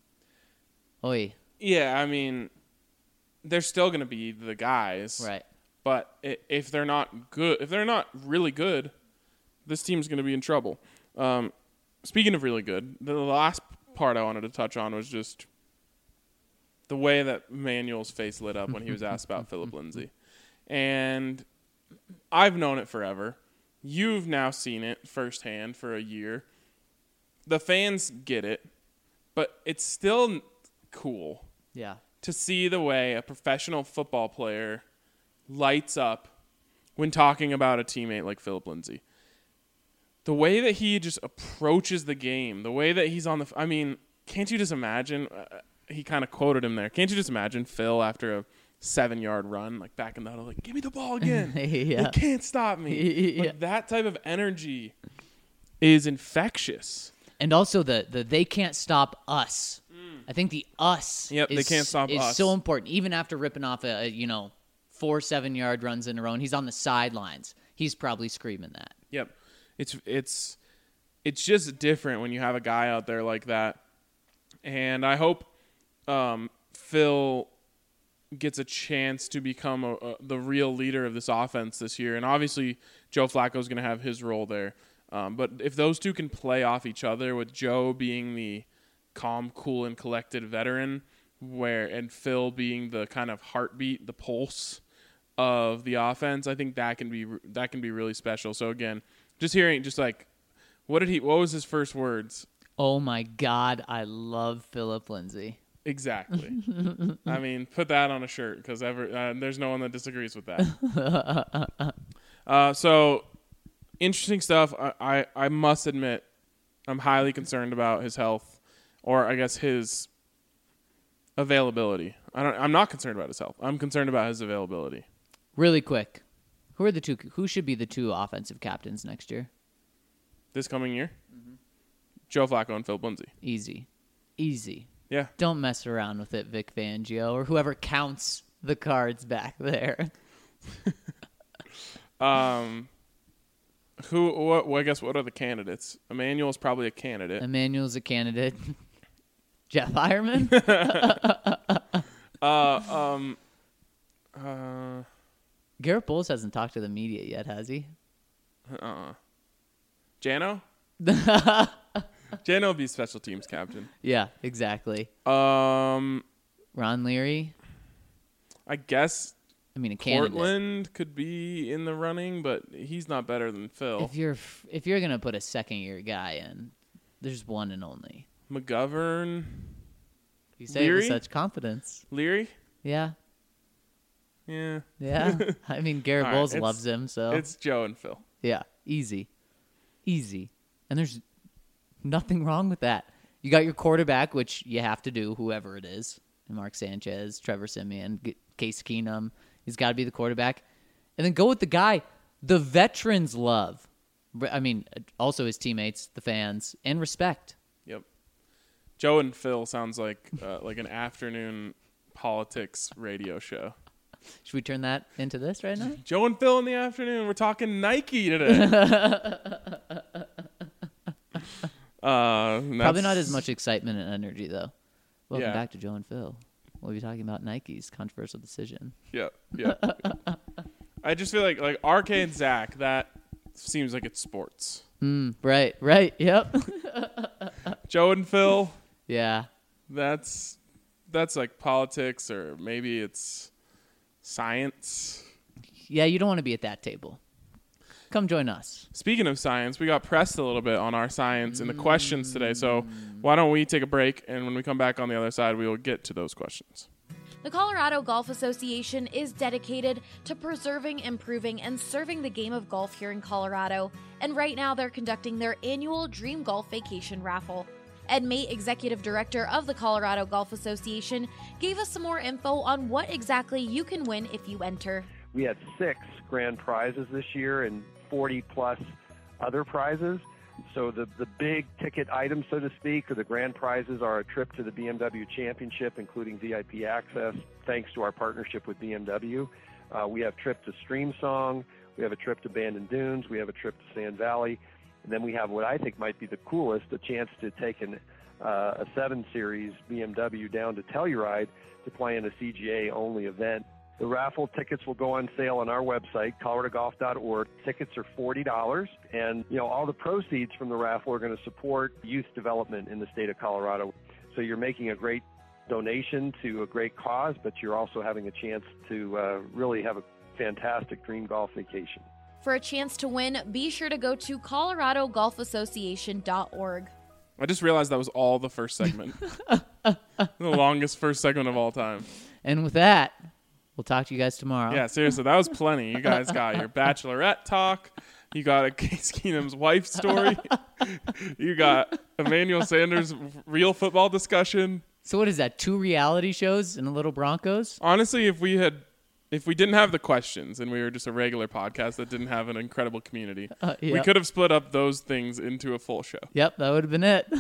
Oi. Yeah, I mean, they're still going to be the guys. Right. But if they're not good, if they're not really good, this team's going to be in trouble. Speaking of really good, the last part I wanted to touch on was just the way that Manuel's face lit up when he was asked about Phillip Lindsay. And I've known it forever. You've now seen it firsthand for a year. The fans get it, but it's still cool to see the way a professional football player lights up when talking about a teammate like Phillip Lindsay. The way that he just approaches the game, the way that he's on I mean, can't you just imagine, he kind of quoted him there, can't you just imagine Phil after a 7-yard run, like back in the huddle, like, give me the ball again. They can't stop me. Like, that type of energy is infectious. And also the they can't stop us. I think the us they can't stop us. Is so important. Even after ripping off 4 7-yard runs in a row, and he's on the sidelines, he's probably screaming that. Yep. It's just different when you have a guy out there like that. And I hope Phil gets a chance to become the real leader of this offense this year. And obviously Joe Flacco is going to have his role there. But if those two can play off each other, with Joe being the calm, cool, and collected veteran, and Phil being the kind of heartbeat, the pulse of the offense, I think that can be really special. So again, just hearing, just like, what was his first words? Oh my God, I love Phillip Lindsay. Exactly. I mean, put that on a shirt, because there's no one that disagrees with that. So interesting stuff. I must admit, I'm highly concerned about his health, or I guess his availability. I'm not concerned about his health. I'm concerned about his availability. Really quick, who should be the two offensive captains next year? This coming year? Mm-hmm. Joe Flacco and Phillip Lindsay. Easy. Yeah. Don't mess around with it, Vic Fangio, or whoever counts the cards back there. I guess what are the candidates? Emmanuel's probably a candidate. Emmanuel's a candidate. Jeff Hireman? Garrett Bowles hasn't talked to the media yet, has he? Jano? Jano will be special teams captain. Yeah, exactly. Ron Leary? I guess a candidate. Portland could be in the running, but he's not better than Phil. If you're going to put a second-year guy in, there's one and only. McGovern? You say it with such confidence. Leary? Yeah. Yeah. Yeah. I mean, Garrett Bowles loves him, so. It's Joe and Phil. Yeah. Easy. And there's nothing wrong with that. You got your quarterback, which you have to do, whoever it is. Mark Sanchez, Trevor Siemian, Case Keenum. He's got to be the quarterback. And then go with the guy the veterans love. I mean, also his teammates, the fans, and respect. Yep. Joe and Phil sounds like an afternoon politics radio show. Should we turn that into this right now? Joe and Phil in the afternoon. We're talking Nike today. Probably not as much excitement and energy, though. Welcome back to Joe and Phil. We'll be talking about Nike's controversial decision. Yeah. I just feel like RK and Zach, that seems like it's sports. Right, yep. Joe and Phil. Yeah. That's like politics, or maybe it's science. Yeah, you don't want to be at that table. Come join us. Speaking of science, we got pressed a little bit on our science in the questions today. So why don't we take a break, and when we come back on the other side, we will get to those questions. The Colorado Golf Association is dedicated to preserving, improving, and serving the game of golf here in Colorado. And right now, they're conducting their annual Dream Golf Vacation Raffle. Ed Mate, Executive Director of the Colorado Golf Association, gave us some more info on what exactly you can win if you enter. We had 6 grand prizes this year and 40-plus other prizes. So So the big ticket items, so to speak, or the grand prizes are a trip to the BMW Championship, including VIP access, thanks to our partnership with BMW. We have a trip to Streamsong. We have a trip to Bandon Dunes. We have a trip to Sand Valley. And then we have what I think might be the coolest, a chance to take a 7 Series BMW down to Telluride to play in a CGA-only event. The raffle tickets will go on sale on our website, coloradogolf.org. Tickets are $40, and all the proceeds from the raffle are going to support youth development in the state of Colorado. So you're making a great donation to a great cause, but you're also having a chance to really have a fantastic dream golf vacation. For a chance to win, be sure to go to coloradogolfassociation.org. I just realized that was all the first segment. The longest first segment of all time. And with that, we'll talk to you guys tomorrow. Yeah, seriously, that was plenty. You guys got your bachelorette talk. You got a Case Keenum's wife story. You got Emmanuel Sanders' real football discussion. So what is that, 2 reality shows and a little Broncos? Honestly, if we didn't have the questions and we were just a regular podcast that didn't have an incredible community, we could have split up those things into a full show. Yep, that would have been it.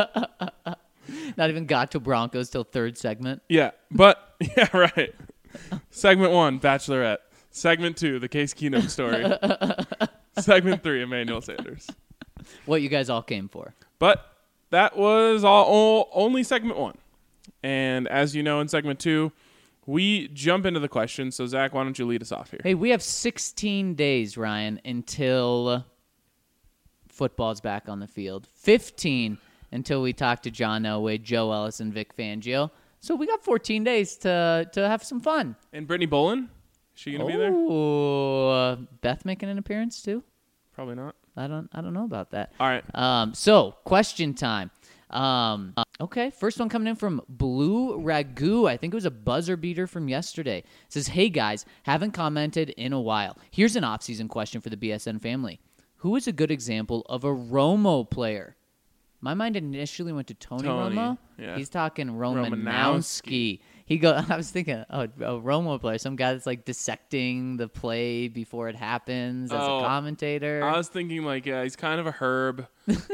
Not even got to Broncos till 3rd segment. Yeah, but, yeah, right. Segment 1, Bachelorette. Segment 2, the Case Keenum story. Segment 3, Emmanuel Sanders. What you guys all came for. But that was only segment 1. And as you know, in segment 2, we jump into the questions. So, Zach, why don't you lead us off here? Hey, we have 16 days, Ryan, until football's back on the field. 15 until we talk to John Elway, Joe Ellis, and Vic Fangio. So we got 14 days to have some fun. And Brittany Bolin? Is she going to be there? Oh, Beth making an appearance too? Probably not. I don't know about that. All right. So question time. Okay, first one coming in from Blue Ragu. I think it was a buzzer beater from yesterday. It says, hey guys, haven't commented in a while. Here's an off-season question for the BSN family. Who is a good example of a Romo player? My mind initially went to Tony Romo. Yeah. He's talking Romanowski. I was thinking, a Romo player, some guy that's like dissecting the play before it happens as a commentator. I was thinking he's kind of a herb.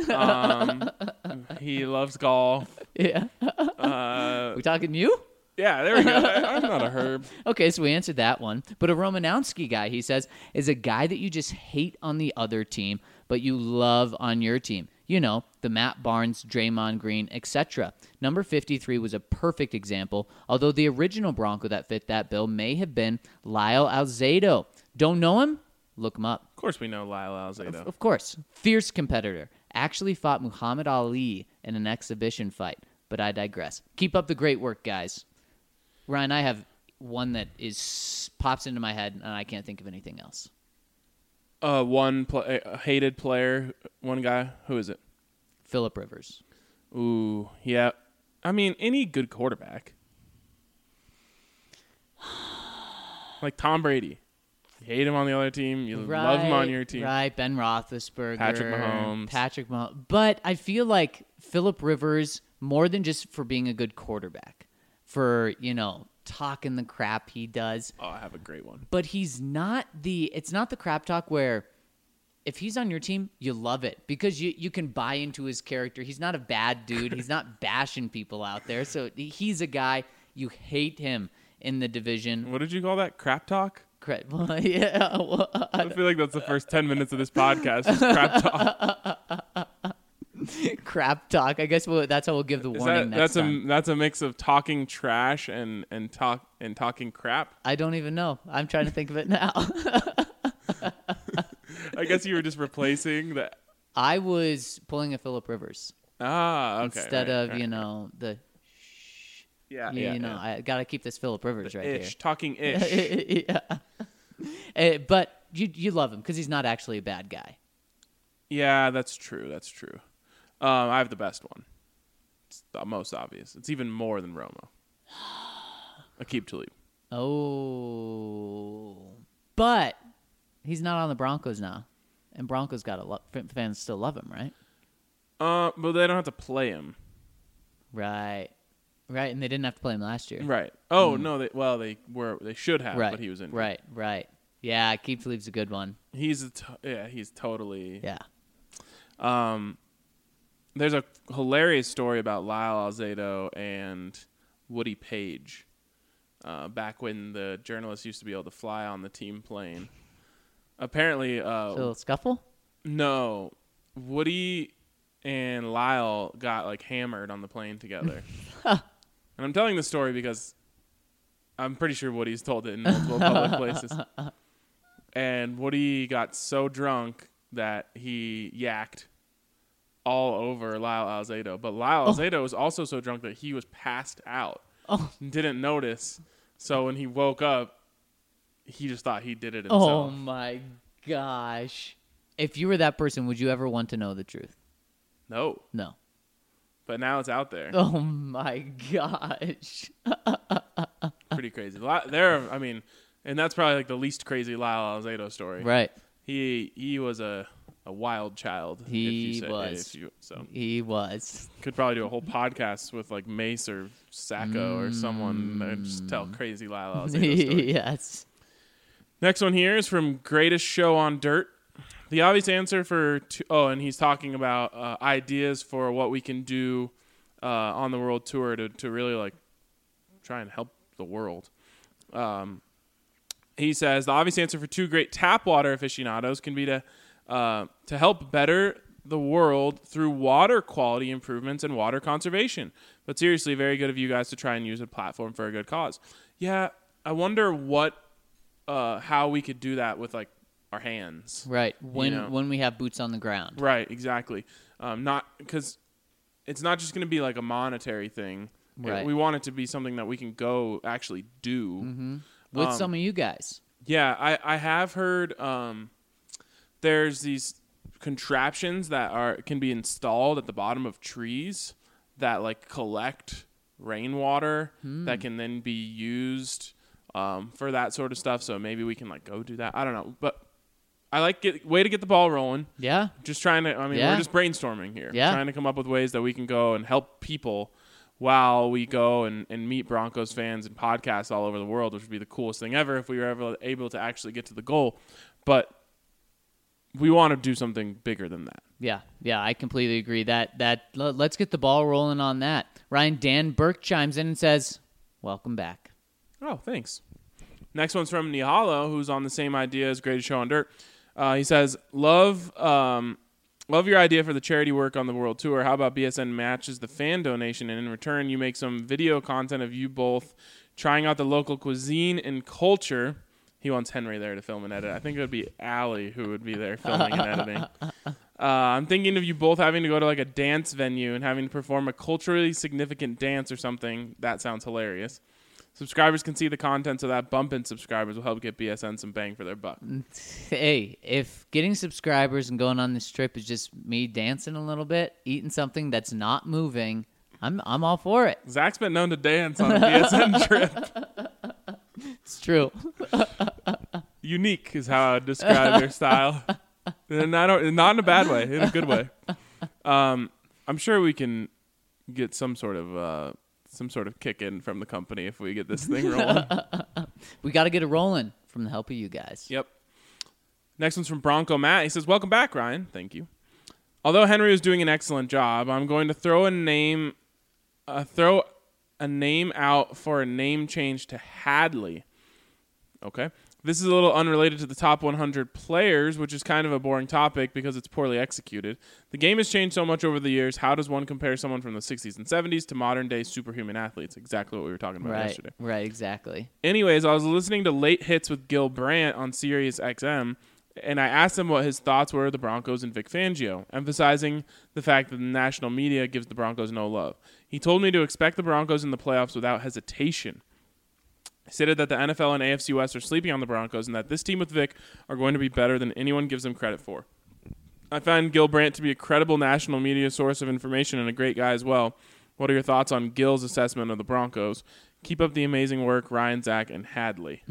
He loves golf. Yeah. We talking you? Yeah, there we go. I'm not a herb. Okay, so we answered that one. But a Romanowski guy, he says, is a guy that you just hate on the other team, but you love on your team. You know, the Matt Barnes, Draymond Green, etc. Number 53 was a perfect example, although the original Bronco that fit that bill may have been Lyle Alzado. Don't know him? Look him up. Of course we know Lyle Alzado. Of course. Fierce competitor. Actually fought Muhammad Ali in an exhibition fight. But I digress. Keep up the great work, guys. Ryan, I have one that pops into my head, and I can't think of anything else. One hated player, one guy. Who is it? Phillip Rivers. Ooh, yeah. I mean, any good quarterback. Like Tom Brady. You hate him on the other team. You love him on your team. Right, Ben Roethlisberger. Patrick Mahomes. But I feel like Phillip Rivers, more than just for being a good quarterback, for, talking the crap he does. Oh, I have a great one. But it's not the crap talk where if he's on your team, you love it because you can buy into his character. He's not a bad dude. He's not bashing people out there. So he's a guy, you hate him in the division. What did you call that? Crap talk? Well, yeah. Well, I feel like that's the first 10 minutes of this podcast. Just crap talk. Crap talk. I guess that's how we'll give the warning next time. That's a mix of talking trash and talking crap. I don't even know. I'm trying to think of it now. I guess you were just replacing that. I was pulling a Phillip Rivers. Okay. Instead of the. Yeah. I gotta keep this Phillip Rivers right here. Talking ish. Yeah. But you love him because he's not actually a bad guy. Yeah, that's true. I have the best one. It's the most obvious. It's even more than Romo. Aqib Talib. Oh. But he's not on the Broncos now. And Broncos fans still love him, right? But they don't have to play him. Right. Right, and they didn't have to play him last year. Right. Oh, no, they should have, right. But he was injured. Right. Yeah, Aqib Talib's a good one. He's totally. Yeah. There's a hilarious story about Lyle Alzado and Woody Page back when the journalists used to be able to fly on the team plane. Apparently, a little scuffle? No, Woody and Lyle got like hammered on the plane together. And I'm telling this story because I'm pretty sure Woody's told it in multiple public places. And Woody got so drunk that he yacked all over Lyle Alzado. But Lyle Alzado was also so drunk that he was passed out and didn't notice. So when he woke up, he just thought he did it himself. Oh, my gosh. If you were that person, would you ever want to know the truth? No. No. But now it's out there. Oh, my gosh. Pretty crazy. And that's probably like the least crazy Lyle Alzado story. Right. He was a wild child. He was. Could probably do a whole podcast with like Mace or Sacco or someone and just tell crazy Lyle Alzado story. Yes. Next one here is from Greatest Show on Dirt. The obvious answer and he's talking about ideas for what we can do on the world tour to really like try and help the world. He says the obvious answer for two great tap water aficionados can be to help better the world through water quality improvements and water conservation. But seriously, very good of you guys to try and use a platform for a good cause. Yeah, I wonder how we could do that with like our hands. Right. When we have boots on the ground. Right. Exactly. Not because it's not just going to be like a monetary thing. Right. We want it to be something that we can go actually do. Mm-hmm. With some of you guys. Yeah, I have heard there's these contraptions that can be installed at the bottom of trees that like collect rainwater that can then be used for that sort of stuff. So maybe we can like go do that. I don't know, but I like way to get the ball rolling. Yeah. Just trying to. We're just brainstorming here. Yeah. Trying to come up with ways that we can go and help people while we go and meet Broncos fans and podcasts all over the world, which would be the coolest thing ever if we were ever able to actually get to the goal. But we want to do something bigger than that. Yeah, I completely agree. Let's get the ball rolling on that. Ryan, Dan Burke chimes in and says, welcome back. Oh, thanks. Next one's from Nihalo, who's on the same idea as Greatest Show on Dirt. He says, love your idea for the charity work on the world tour. How about BSN matches the fan donation, and in return you make some video content of you both trying out the local cuisine and culture. He wants Henry there to film and edit. I think it would be Allie who would be there filming and editing. I'm thinking of you both having to go to like a dance venue and having to perform a culturally significant dance or something. That sounds hilarious. Subscribers can see the content, so that bump in subscribers will help get BSN some bang for their buck. Hey, if getting subscribers and going on this trip is just me dancing a little bit, eating something that's not moving, I'm all for it. Zach's been known to dance on a BSN trip. It's true. Unique is how I would describe your style. And not in a bad way, in a good way. I'm sure we can get some sort of kick in from the company if we get this thing rolling. We got to get it rolling from the help of you guys. Yep. Next one's from Bronco Matt. He says, welcome back, Ryan. Thank you. Although Henry was doing an excellent job, I'm going to throw a name out for a name change to Hadley. Okay. This is a little unrelated to the top 100 players, which is kind of a boring topic because it's poorly executed. The game has changed so much over the years. How does one compare someone from the 60s and 70s to modern-day superhuman athletes? Exactly what we were talking about yesterday. Right, exactly. Anyways, I was listening to Late Hits with Gil Brandt on Sirius XM, and I asked him what his thoughts were of the Broncos and Vic Fangio, emphasizing the fact that the national media gives the Broncos no love. He told me to expect the Broncos in the playoffs without hesitation. He stated that the NFL and AFC West are sleeping on the Broncos and that this team with Vic are going to be better than anyone gives them credit for. I find Gil Brandt to be a credible national media source of information and a great guy as well. What are your thoughts on Gil's assessment of the Broncos? Keep up the amazing work, Ryan, Zach, and Hadley.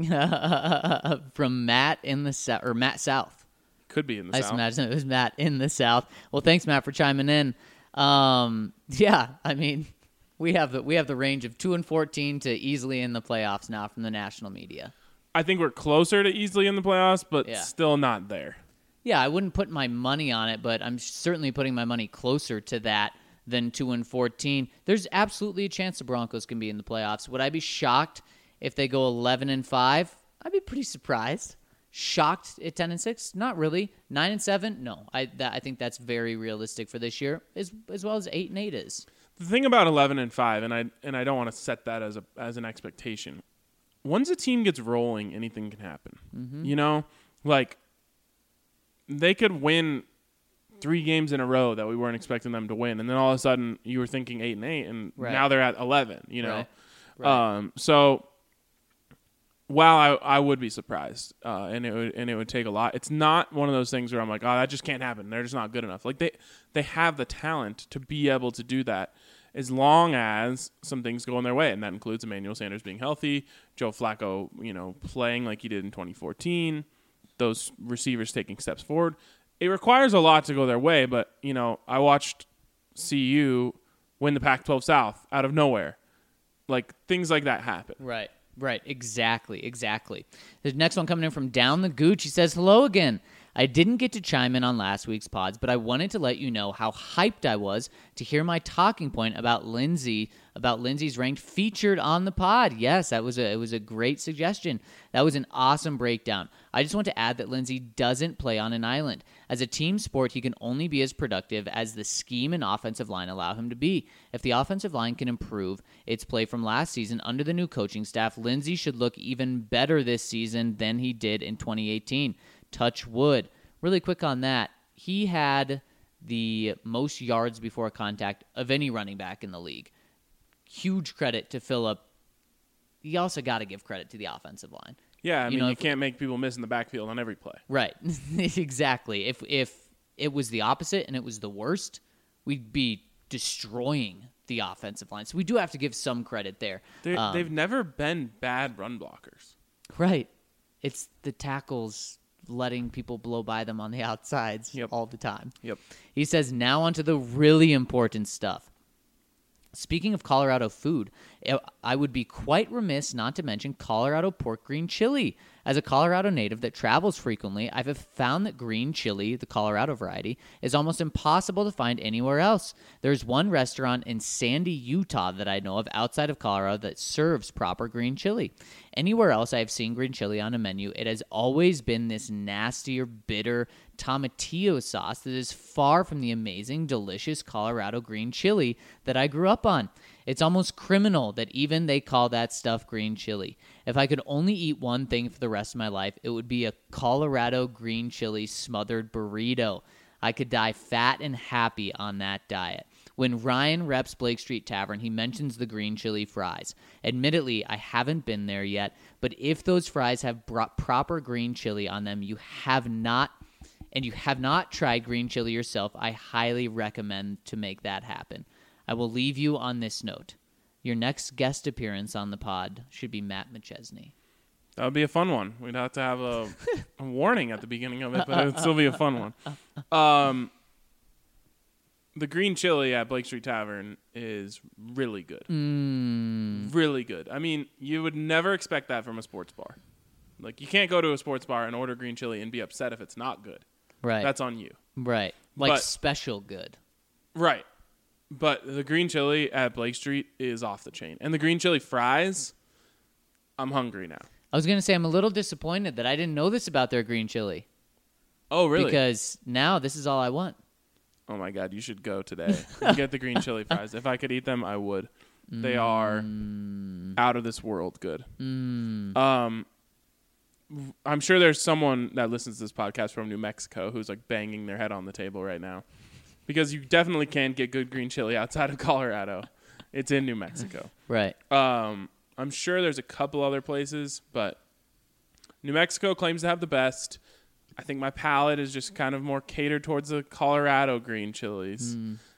From Matt in the South, or Matt South. Could be in the South. I imagine it was Matt in the South. Well, thanks, Matt, for chiming in. Yeah, I mean, we have the range of 2-14 to easily in the playoffs now from the national media. I think we're closer to easily in the playoffs, but still not there. Yeah, I wouldn't put my money on it, but I'm certainly putting my money closer to that than 2-14. There's absolutely a chance the Broncos can be in the playoffs. Would I be shocked if they go 11-5? I'd be pretty surprised. Shocked at 10-6? Not really. 9-7? No. I think that's very realistic for this year, as well as 8-8 is. The thing about 11-5, and I don't want to set that as an expectation. Once a team gets rolling, anything can happen. Mm-hmm. You know, like they could win 3 games in a row that we weren't expecting them to win, and then all of a sudden you were thinking 8-8, and now they're at 11. You know, Right. So while I would be surprised, and it would take a lot. It's not one of those things where I'm like, oh, that just can't happen. They're just not good enough. Like they have the talent to be able to do that, as long as some things go in their way, and that includes Emmanuel Sanders being healthy, Joe Flacco, playing like he did in 2014, those receivers taking steps forward. It requires a lot to go their way, but I watched CU win the Pac-12 South out of nowhere. Like things like that happen. Right. Exactly. The next one coming in from Down the Gooch. He says, hello again. I didn't get to chime in on last week's pods, but I wanted to let you know how hyped I was to hear my talking point about Lindsey's ranked featured on the pod. Yes, it was a great suggestion. That was an awesome breakdown. I just want to add that Lindsey doesn't play on an island. As a team sport, he can only be as productive as the scheme and offensive line allow him to be. If the offensive line can improve its play from last season under the new coaching staff, Lindsey should look even better this season than he did in 2018. Touch wood. Really quick on that, he had the most yards before contact of any running back in the league. Huge credit to Phillip. You also got to give credit to the offensive line. Yeah, I mean, you can't make people miss in the backfield on every play. Right. Exactly. If it was the opposite and it was the worst, we'd be destroying the offensive line. So we do have to give some credit there. They've never been bad run blockers. Right. It's the tackles letting people blow by them on the outsides all the time. Yep. He says, now onto the really important stuff. Speaking of Colorado food, I would be quite remiss not to mention Colorado pork green chili. As a Colorado native that travels frequently, I've found that green chili, the Colorado variety, is almost impossible to find anywhere else. There's one restaurant in Sandy, Utah that I know of outside of Colorado that serves proper green chili. Anywhere else I have seen green chili on a menu, it has always been this nastier, bitter tomatillo sauce that is far from the amazing, delicious Colorado green chili that I grew up on. It's almost criminal that even they call that stuff green chili. If I could only eat one thing for the rest of my life, it would be a Colorado green chili smothered burrito. I could die fat and happy on that diet. When Ryan reps Blake Street Tavern, he mentions the green chili fries. Admittedly, I haven't been there yet, but if those fries have proper green chili on them, you have not tried green chili yourself, I highly recommend to make that happen. I will leave you on this note. Your next guest appearance on the pod should be Matt McChesney. That would be a fun one. We'd have to have a warning at the beginning of it, but it would still be a fun one. The green chili at Blake Street Tavern is really good. Really good. I mean, you would never expect that from a sports bar. Like, you can't go to a sports bar and order green chili and be upset if it's not good. Right. That's on you. Right. Like special good. Right. But the green chili at Blake Street is off the chain. And the green chili fries, I'm hungry now. I was going to say I'm a little disappointed that I didn't know this about their green chili. Oh, really? Because now this is all I want. Oh, my God. You should go today and get the green chili fries. If I could eat them, I would. They are out of this world good. I'm sure there's someone that listens to this podcast from New Mexico who's like banging their head on the table right now. Because you definitely can't get good green chili outside of Colorado. It's in New Mexico. Right. I'm sure there's a couple other places, but New Mexico claims to have the best. I think my palate is just kind of more catered towards the Colorado green chilies.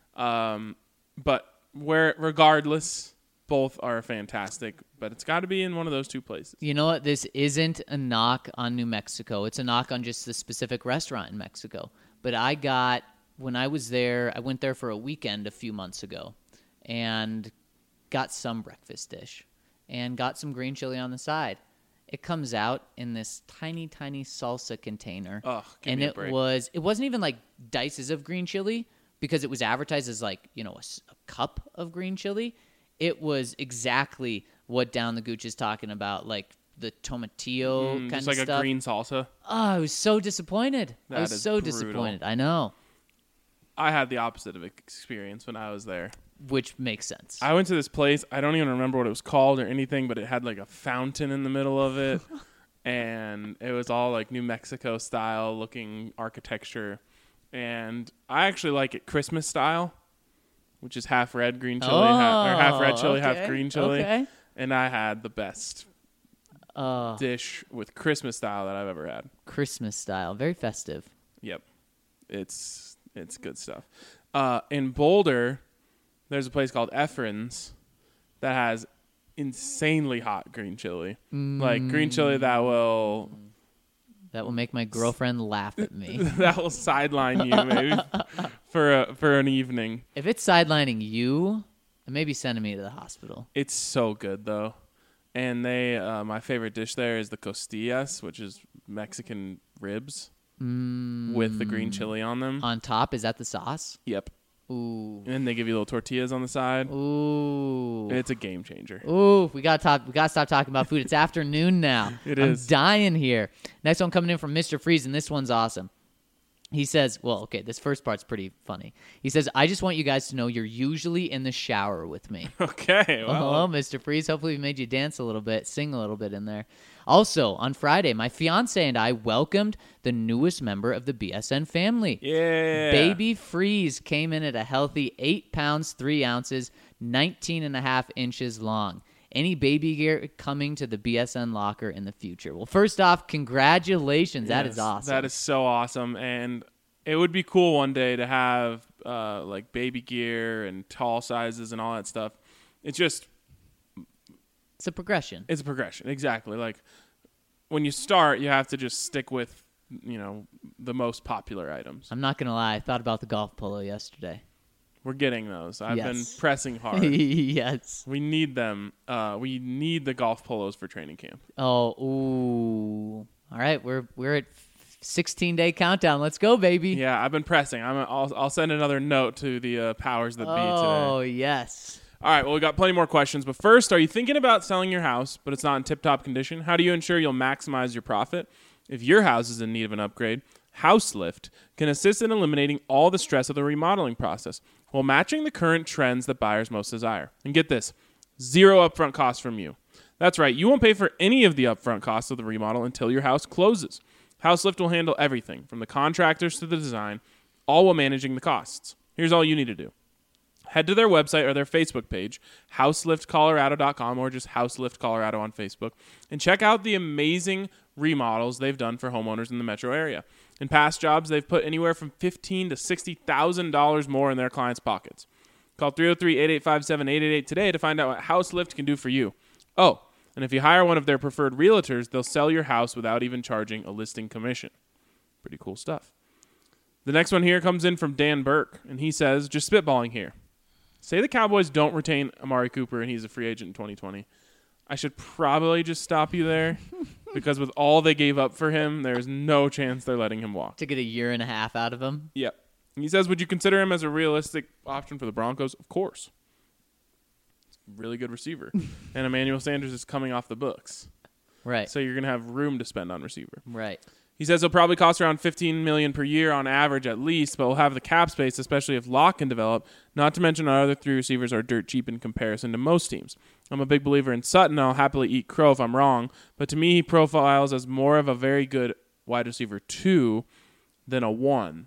But regardless, both are fantastic. But it's got to be in one of those two places. You know what? This isn't a knock on New Mexico. It's a knock on just the specific restaurant in Mexico. But when I was there, I went there for a weekend a few months ago and got some breakfast dish and got some green chili on the side. It comes out in this tiny, tiny salsa container. Ugh, give and me a it break. wasn't even like dices of green chili because it was advertised as like, a cup of green chili. It was exactly what Down the Gooch is talking about, like the tomatillo kind just of like stuff. a green salsa. Oh, I was so disappointed. That I was is so brutal. disappointed. I know. I had the opposite of experience when I was there. Which makes sense. I went to this place. I don't even remember what it was called or anything, but it had like a fountain in the middle of it. And it was all like New Mexico style looking architecture. And I actually like it Christmas style, which is half red, green chili, or half red chili, half green chili. Okay. And I had the best dish with Christmas style that I've ever had. Christmas style. Very festive. Yep. It's good stuff. In Boulder, there's a place called Efren's that has insanely hot green chili. Like green chili that will make my girlfriend laugh at me. That will sideline you maybe for an evening. If it's sidelining you, it may be sending me to the hospital. It's so good though. And they my favorite dish there is the costillas, which is Mexican ribs with the green chili on them. On top, is that the sauce? Yep. Ooh. And they give you little tortillas on the side. Ooh. It's a game changer. Ooh, we gotta stop talking about food. It's afternoon now. I'm dying here. Next one coming in from Mr. Freeze, and this one's awesome. He says, this first part's pretty funny. He says, I just want you guys to know you're usually in the shower with me. Okay. Well. Oh, Mr. Freeze. Hopefully we made you dance a little bit, sing a little bit in there. Also, on Friday, my fiance and I welcomed the newest member of the BSN family. Yeah. Baby Freeze came in at a healthy 8 pounds, 3 ounces, 19.5 inches long. Any baby gear coming to the BSN locker in the future? Well, first off, congratulations. That is awesome. That is so awesome. And it would be cool one day to have like baby gear and tall sizes and all that stuff. It's a progression. It's a progression. Exactly. Like when you start, you have to just stick with, the most popular items. I'm not going to lie. I thought about the golf polo yesterday. We're getting those. I've been pressing hard. Yes. We need them. We need the golf polos for training camp. Oh, ooh. All right, we're at 16-day countdown. Let's go, baby. Yeah, I've been pressing. I'll send another note to the powers that be today. Oh, yes. All right, well, we got plenty more questions. But first, are you thinking about selling your house, but it's not in tip-top condition? How do you ensure you'll maximize your profit? If your house is in need of an upgrade, HouseLift can assist in eliminating all the stress of the remodeling process while matching the current trends that buyers most desire. And get this, 0 upfront costs from you. That's right, you won't pay for any of the upfront costs of the remodel until your house closes. HouseLift will handle everything, from the contractors to the design, all while managing the costs. Here's all you need to do. Head to their website or their Facebook page, houseliftcolorado.com, or just Houselift Colorado on Facebook, and check out the amazing remodels they've done for homeowners in the metro area. In past jobs, they've put anywhere from $15,000 to $60,000 more in their clients' pockets. Call 303-885-7888 today to find out what HouseLift can do for you. Oh, and if you hire one of their preferred realtors, they'll sell your house without even charging a listing commission. Pretty cool stuff. The next one here comes in from Dan Burke, and he says, just spitballing here. Say the Cowboys don't retain Amari Cooper and he's a free agent in 2020. I should probably just stop you there because with all they gave up for him, there's no chance they're letting him walk. To get a year and a half out of him? Yep. He says, would you consider him as a realistic option for the Broncos? Of course. He's a really good receiver. And Emmanuel Sanders is coming off the books. Right. So you're going to have room to spend on receiver. Right. He says he'll probably cost around $15 million per year on average at least, but we'll have the cap space, especially if Locke can develop, not to mention our other 3 receivers are dirt cheap in comparison to most teams. I'm a big believer in Sutton, and I'll happily eat crow if I'm wrong, but to me he profiles as more of a very good wide receiver 2 than a 1.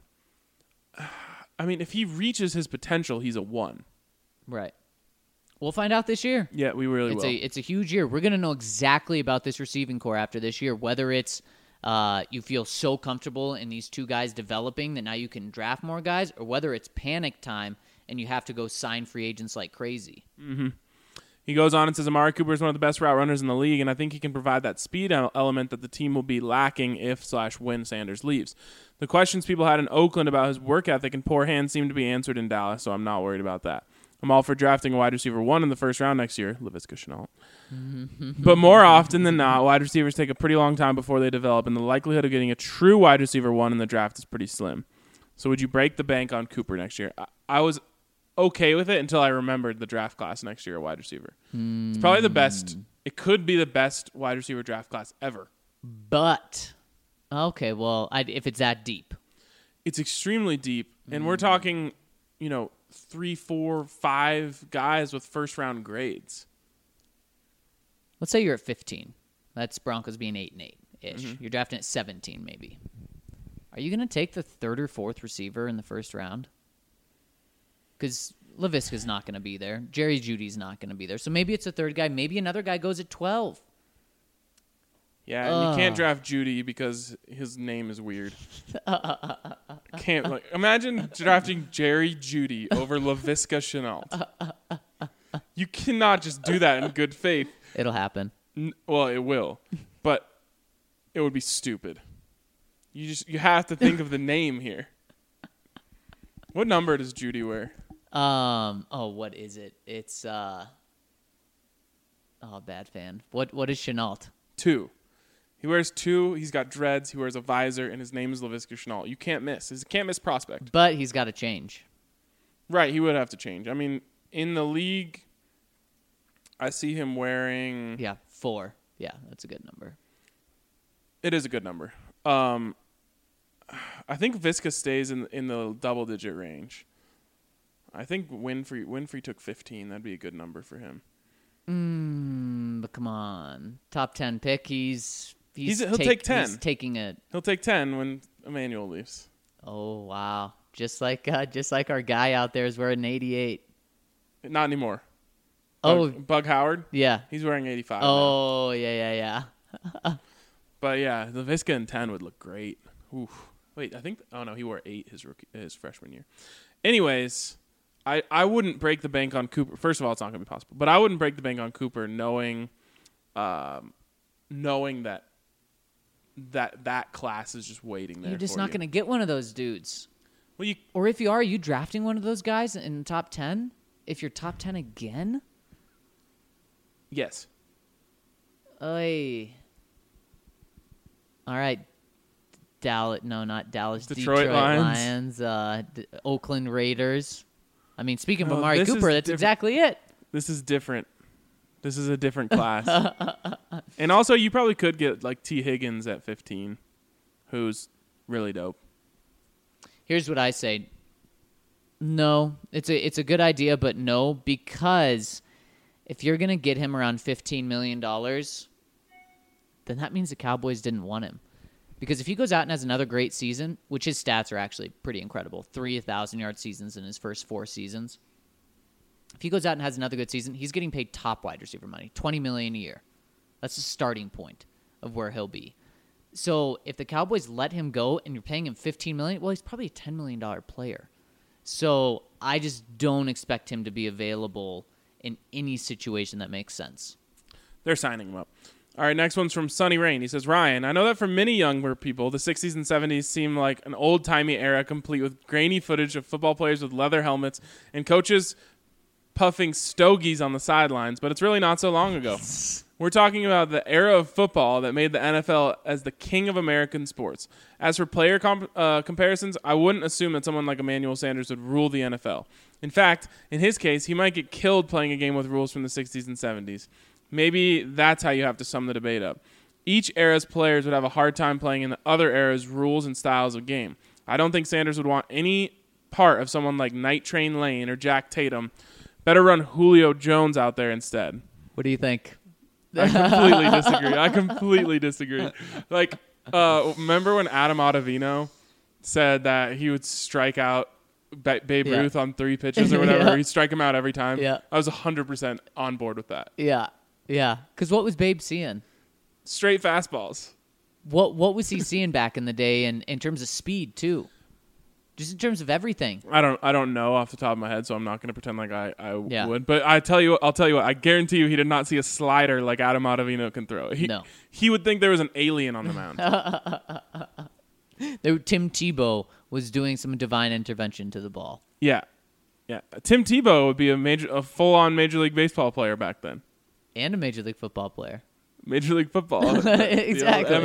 I mean, if he reaches his potential, he's a 1. Right. We'll find out this year. Yeah, we really will. It's a huge year. We're going to know exactly about this receiving core after this year, whether it's you feel so comfortable in these 2 guys developing that now you can draft more guys, or whether it's panic time and you have to go sign free agents like crazy. Mm-hmm. He goes on and says, Amari Cooper is one of the best route runners in the league, and I think he can provide that speed element that the team will be lacking if/when Sanders leaves. The questions people had in Oakland about his work ethic and poor hands seem to be answered in Dallas, so I'm not worried about that. I'm all for drafting a wide receiver 1 in the first round next year, Laviska Shenault. But more often than not, wide receivers take a pretty long time before they develop, and the likelihood of getting a true wide receiver 1 in the draft is pretty slim. So would you break the bank on Cooper next year? I was okay with it until I remembered the draft class next year, a wide receiver. It's probably the best. It could be the best wide receiver draft class ever. But, okay, well, if it's that deep. It's extremely deep, and we're talking, 3, 4, 5 guys with first-round grades. Let's say you're at 15. That's Broncos being 8-8-ish. You're drafting at 17, maybe. Are you going to take the third or fourth receiver in the first round? Because Laviska's not going to be there. Jerry Jeudy's not going to be there. So maybe it's a third guy. Maybe another guy goes at 12. Yeah, and you can't draft Jeudy because his name is weird. Imagine drafting Jerry Jeudy over Laviska Shenault. You cannot just do that in good faith. It'll happen. Well, it will, but it would be stupid. You have to think of the name here. What number does Jeudy wear? What is it? It's bad fan. What is Shenault? 2. He wears 2. He's got dreads. He wears a visor, and his name is Laviska Shenault. You can't miss. He's a can't miss prospect. But he's got to change. Right, he would have to change. I mean, in the league, I see him wearing 4. Yeah, that's a good number. It is a good number. I think Viska stays in the double-digit range. I think Winfrey took 15. That'd be a good number for him. But come on, top 10 pick. He'll take 10. He's taking it. He'll take 10 when Emmanuel leaves. Oh wow! Just like our guy out there is wearing 88. Not anymore. Bug Howard. Yeah, he's wearing 85. Oh now. yeah. But yeah, the Viska in 10 would look great. Oof. Wait, I think. Oh no, he wore 8 his freshman year. Anyways. I wouldn't break the bank on Cooper. First of all, it's not going to be possible. But I wouldn't break the bank on Cooper knowing that class is just waiting there. You're just not going to get one of those dudes. Well, or if you are you drafting one of those guys in the top 10? If you're top 10 again? Yes. Oy. All right. Not Dallas. Detroit Lions. Oakland Raiders. I mean, speaking of Amari Cooper, that's exactly it. This is different. This is a different class. And also, you probably could get like T. Higgins at 15, who's really dope. Here's what I say. No, it's a good idea, but no, because if you're going to get him around $15 million, then that means the Cowboys didn't want him. Because if he goes out and has another great season, which his stats are actually pretty incredible, 3 1,000-yard seasons in his first 4 seasons. If he goes out and has another good season, he's getting paid top wide receiver money, $20 million a year. That's the starting point of where he'll be. So if the Cowboys let him go and you're paying him $15 million, well, he's probably a $10 million player. So I just don't expect him to be available in any situation that makes sense. They're signing him up. All right, next one's from Sunny Rain. He says, Ryan, I know that for many younger people, the 60s and 70s seem like an old-timey era complete with grainy footage of football players with leather helmets and coaches puffing stogies on the sidelines, but it's really not so long ago. We're talking about the era of football that made the NFL as the king of American sports. As for player comparisons, I wouldn't assume that someone like Emmanuel Sanders would rule the NFL. In fact, in his case, he might get killed playing a game with rules from the 60s and 70s. Maybe that's how you have to sum the debate up. Each era's players would have a hard time playing in the other era's rules and styles of game. I don't think Sanders would want any part of someone like Night Train Lane or Jack Tatum. Better run Julio Jones out there instead. What do you think? I completely disagree. Like, remember when Adam Ottavino said that he would strike out Babe Ruth on 3 pitches or whatever? Yeah. He'd strike him out every time? Yeah. I was 100% on board with that. Yeah. Because what was Babe seeing? Straight fastballs. What was he seeing back in the day in terms of speed, too? Just in terms of everything. I don't know off the top of my head, so I'm not going to pretend like I would. But I'll tell you what, I guarantee you he did not see a slider like Adam Ottavino can throw. He would think there was an alien on the mound. Tim Tebow was doing some divine intervention to the ball. Yeah. Yeah, Tim Tebow would be a full-on Major League Baseball player back then. And a Major League Football player. Major League Football. Exactly.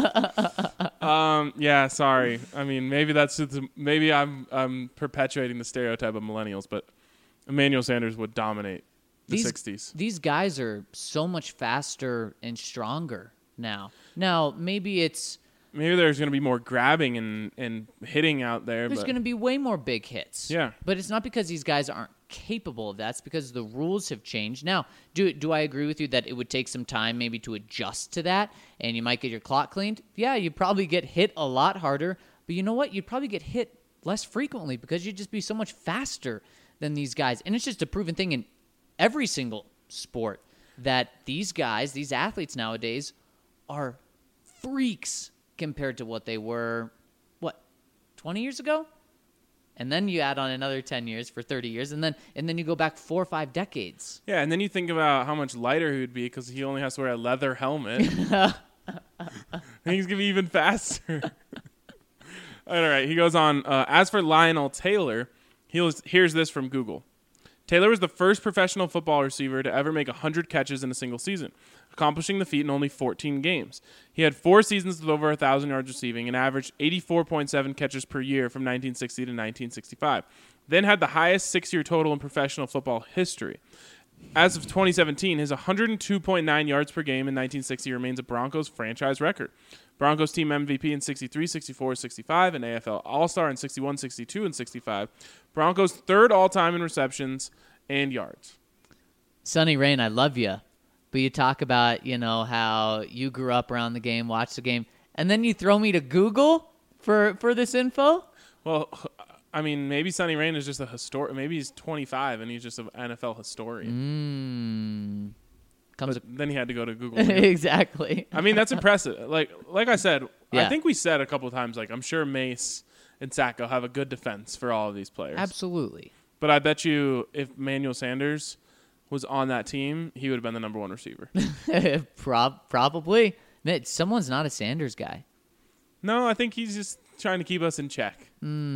MLF. Yeah, sorry. I mean, maybe maybe I'm perpetuating the stereotype of millennials, but Emmanuel Sanders would dominate the 60s. These guys are so much faster and stronger now. Now, maybe there's going to be more grabbing and hitting out there. There's going to be way more big hits. Yeah. But it's not because these guys aren't capable of that. It's because the rules have changed. Now, do I agree with you that it would take some time maybe to adjust to that and you might get your clock cleaned? Yeah, you'd probably get hit a lot harder. But you know what? You'd probably get hit less frequently because you'd just be so much faster than these guys. And it's just a proven thing in every single sport that these guys, these athletes nowadays, are freaks compared to what they were, 20 years ago? And then you add on another 10 years for 30 years, and then you go back 4 or 5 decades. Yeah, and then you think about how much lighter he would be because he only has to wear a leather helmet. And he's going to be even faster. All right, he goes on. As for Lionel Taylor, here's this from Google. Taylor was the first professional football receiver to ever make 100 catches in a single season, accomplishing the feat in only 14 games. He had 4 seasons with over 1,000 yards receiving and averaged 84.7 catches per year from 1960 to 1965, then had the highest 6-year total in professional football history. As of 2017, his 102.9 yards per game in 1960 remains a Broncos franchise record. Broncos team MVP in 63, 64, 65, and AFL All-Star in 61, 62, and 65. Broncos third all-time in receptions and yards. Sonny Rain, I love you. But you talk about, how you grew up around the game, watched the game, and then you throw me to Google for this info? Well, I mean, maybe Sonny Rain is just a historian. Maybe he's 25 and he's just an NFL historian. Then he had to go to Google. Exactly. I mean, that's impressive. Like I said, yeah. I think we said a couple of times, I'm sure Mace and Sacco have a good defense for all of these players. Absolutely. But I bet you if Emmanuel Sanders was on that team, he would have been the number 1 receiver. Probably. Someone's not a Sanders guy. No, I think he's just trying to keep us in check.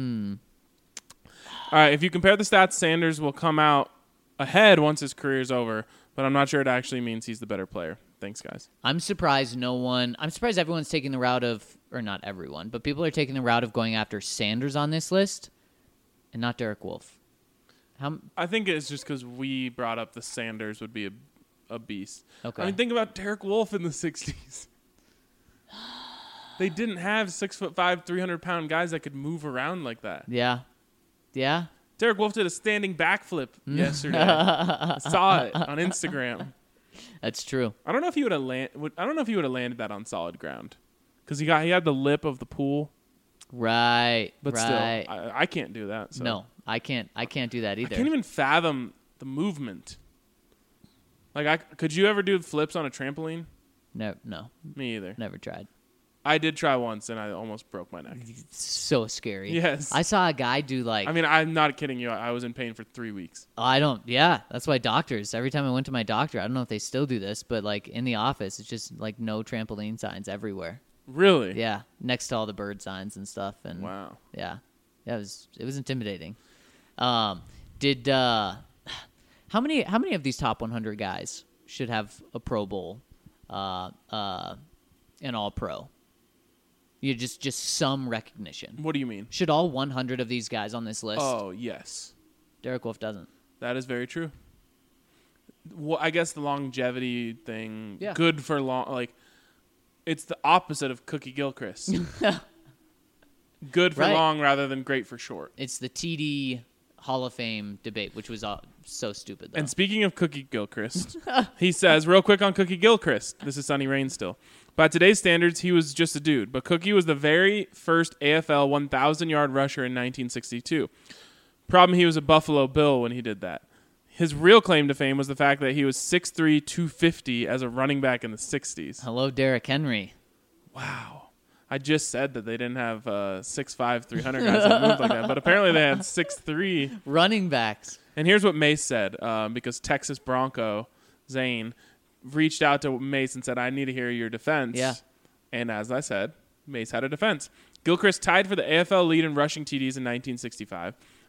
All right, if you compare the stats, Sanders will come out ahead once his career is over, but I'm not sure it actually means he's the better player. Thanks, guys. I'm surprised everyone's taking the route of, or not everyone, but people are taking the route of going after Sanders on this list and not Derek Wolfe. I think it's just because we brought up the Sanders would be a beast. Okay. I mean, think about Derek Wolfe in the 60s. They didn't have 6'5", 300-pound guys that could move around like that. Yeah. Yeah. Derek Wolfe did a standing backflip yesterday. Saw it on Instagram. That's true. I don't know if he would have landed that on solid ground because he had the lip of the pool. Right. But still, I can't do that. So. No, I can't do that either. I can't even fathom the movement. Could you ever do flips on a trampoline? No. Me either. Never tried. I did try once, and I almost broke my neck. So scary. Yes. I saw a guy do I mean, I'm not kidding you. I was in pain for 3 weeks. That's why doctors, every time I went to my doctor, I don't know if they still do this, but in the office, it's just no trampoline signs everywhere. Really? Yeah. Next to all the bird signs and stuff. And wow. Yeah. It was intimidating. How many of these top 100 guys should have a Pro Bowl, an All-Pro? You just some recognition. What do you mean? Should all 100 of these guys on this list? Oh, yes. Derek Wolfe doesn't. That is very true. Well, I guess the longevity thing, yeah. Good for long, it's the opposite of Cookie Gilchrist. Good for long rather than great for short. It's the TD Hall of Fame debate, which was so stupid, though. And speaking of Cookie Gilchrist, he says, real quick on Cookie Gilchrist, this is Sonny Rain still. By today's standards, he was just a dude, but Cookie was the very first AFL 1,000-yard rusher in 1962. Problem, he was a Buffalo Bill when he did that. His real claim to fame was the fact that he was 6'3", 250 as a running back in the 60s. Hello, Derrick Henry. Wow. I just said that they didn't have 6'5", 300 guys that moved like that, but apparently they had 6'3". running backs. And here's what Mace said, because Texas Bronco, Zane, reached out to Mace and said, I need to hear your defense. Yeah. And as I said, Mace had a defense. Gilchrist tied for the AFL lead in rushing TDs in 1965.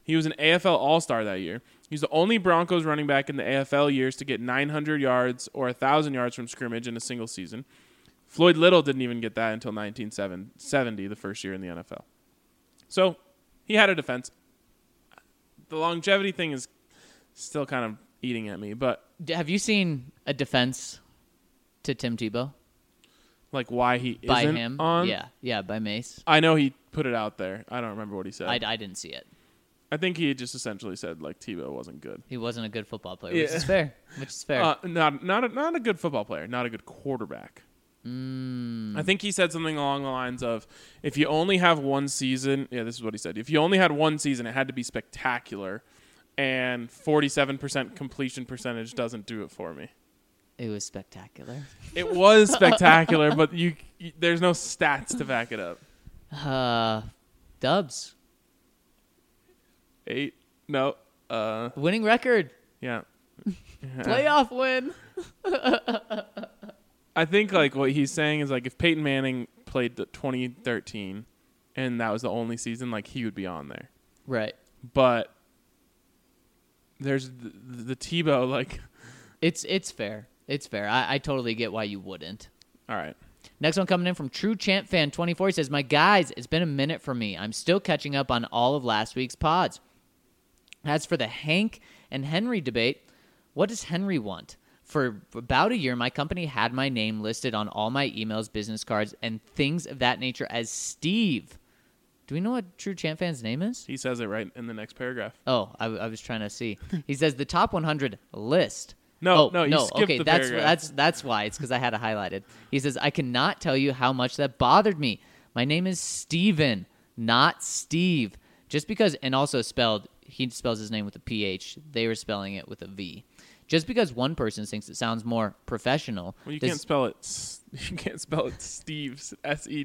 He was an AFL All-Star that year. He's the only Broncos running back in the AFL years to get 900 yards or 1,000 yards from scrimmage in a single season. Floyd Little didn't even get that until 1970, the first year in the NFL. So he had a defense. The longevity thing is still kind of eating at me, but Have you seen a defense to Tim Tebow? like why he By isn't him? on? Yeah, by Mace. I know he put it out there. I don't remember what he said. I didn't see it. I think he just essentially said like Tebow wasn't good. He wasn't a good football player, Yeah. which is fair. Not a good football player, not a good quarterback. I think he said something along the lines of, if you only have one season, this is what he said. If you only had one season, it had to be spectacular, and 47% completion percentage doesn't do it for me. It was spectacular. It was spectacular, but there's no stats to back it up. Dubs. 8? No. Winning record. Yeah. Playoff win. I think like what he's saying is like if Peyton Manning played the 2013 and that was the only season, like he would be on there. Right. But there's the Tebow, like it's fair. It's fair. I totally get why you wouldn't. All right. Next one coming in from True Champ Fan 24. He says, "My guys, it's been a minute for me. I'm still catching up on all of last week's pods. As for the Hank and Henry debate, what does Henry want? For about a year, my company had my name listed on all my emails, business cards, and things of that nature as Steve." Do we know what True Champ Fan's name is? He says it right in the next paragraph. Oh, I was trying to see. He says the top 100 list. No, you skipped okay, the that's paragraph. that's why. It's because I had it highlighted. He says, "I cannot tell you how much that bothered me. My name is Steven, not Steve. Just because," and also he spells his name with a PH. They were spelling it with a V. Just because one person thinks it sounds more professional. Well, you can't spell it. You can't spell it Steve's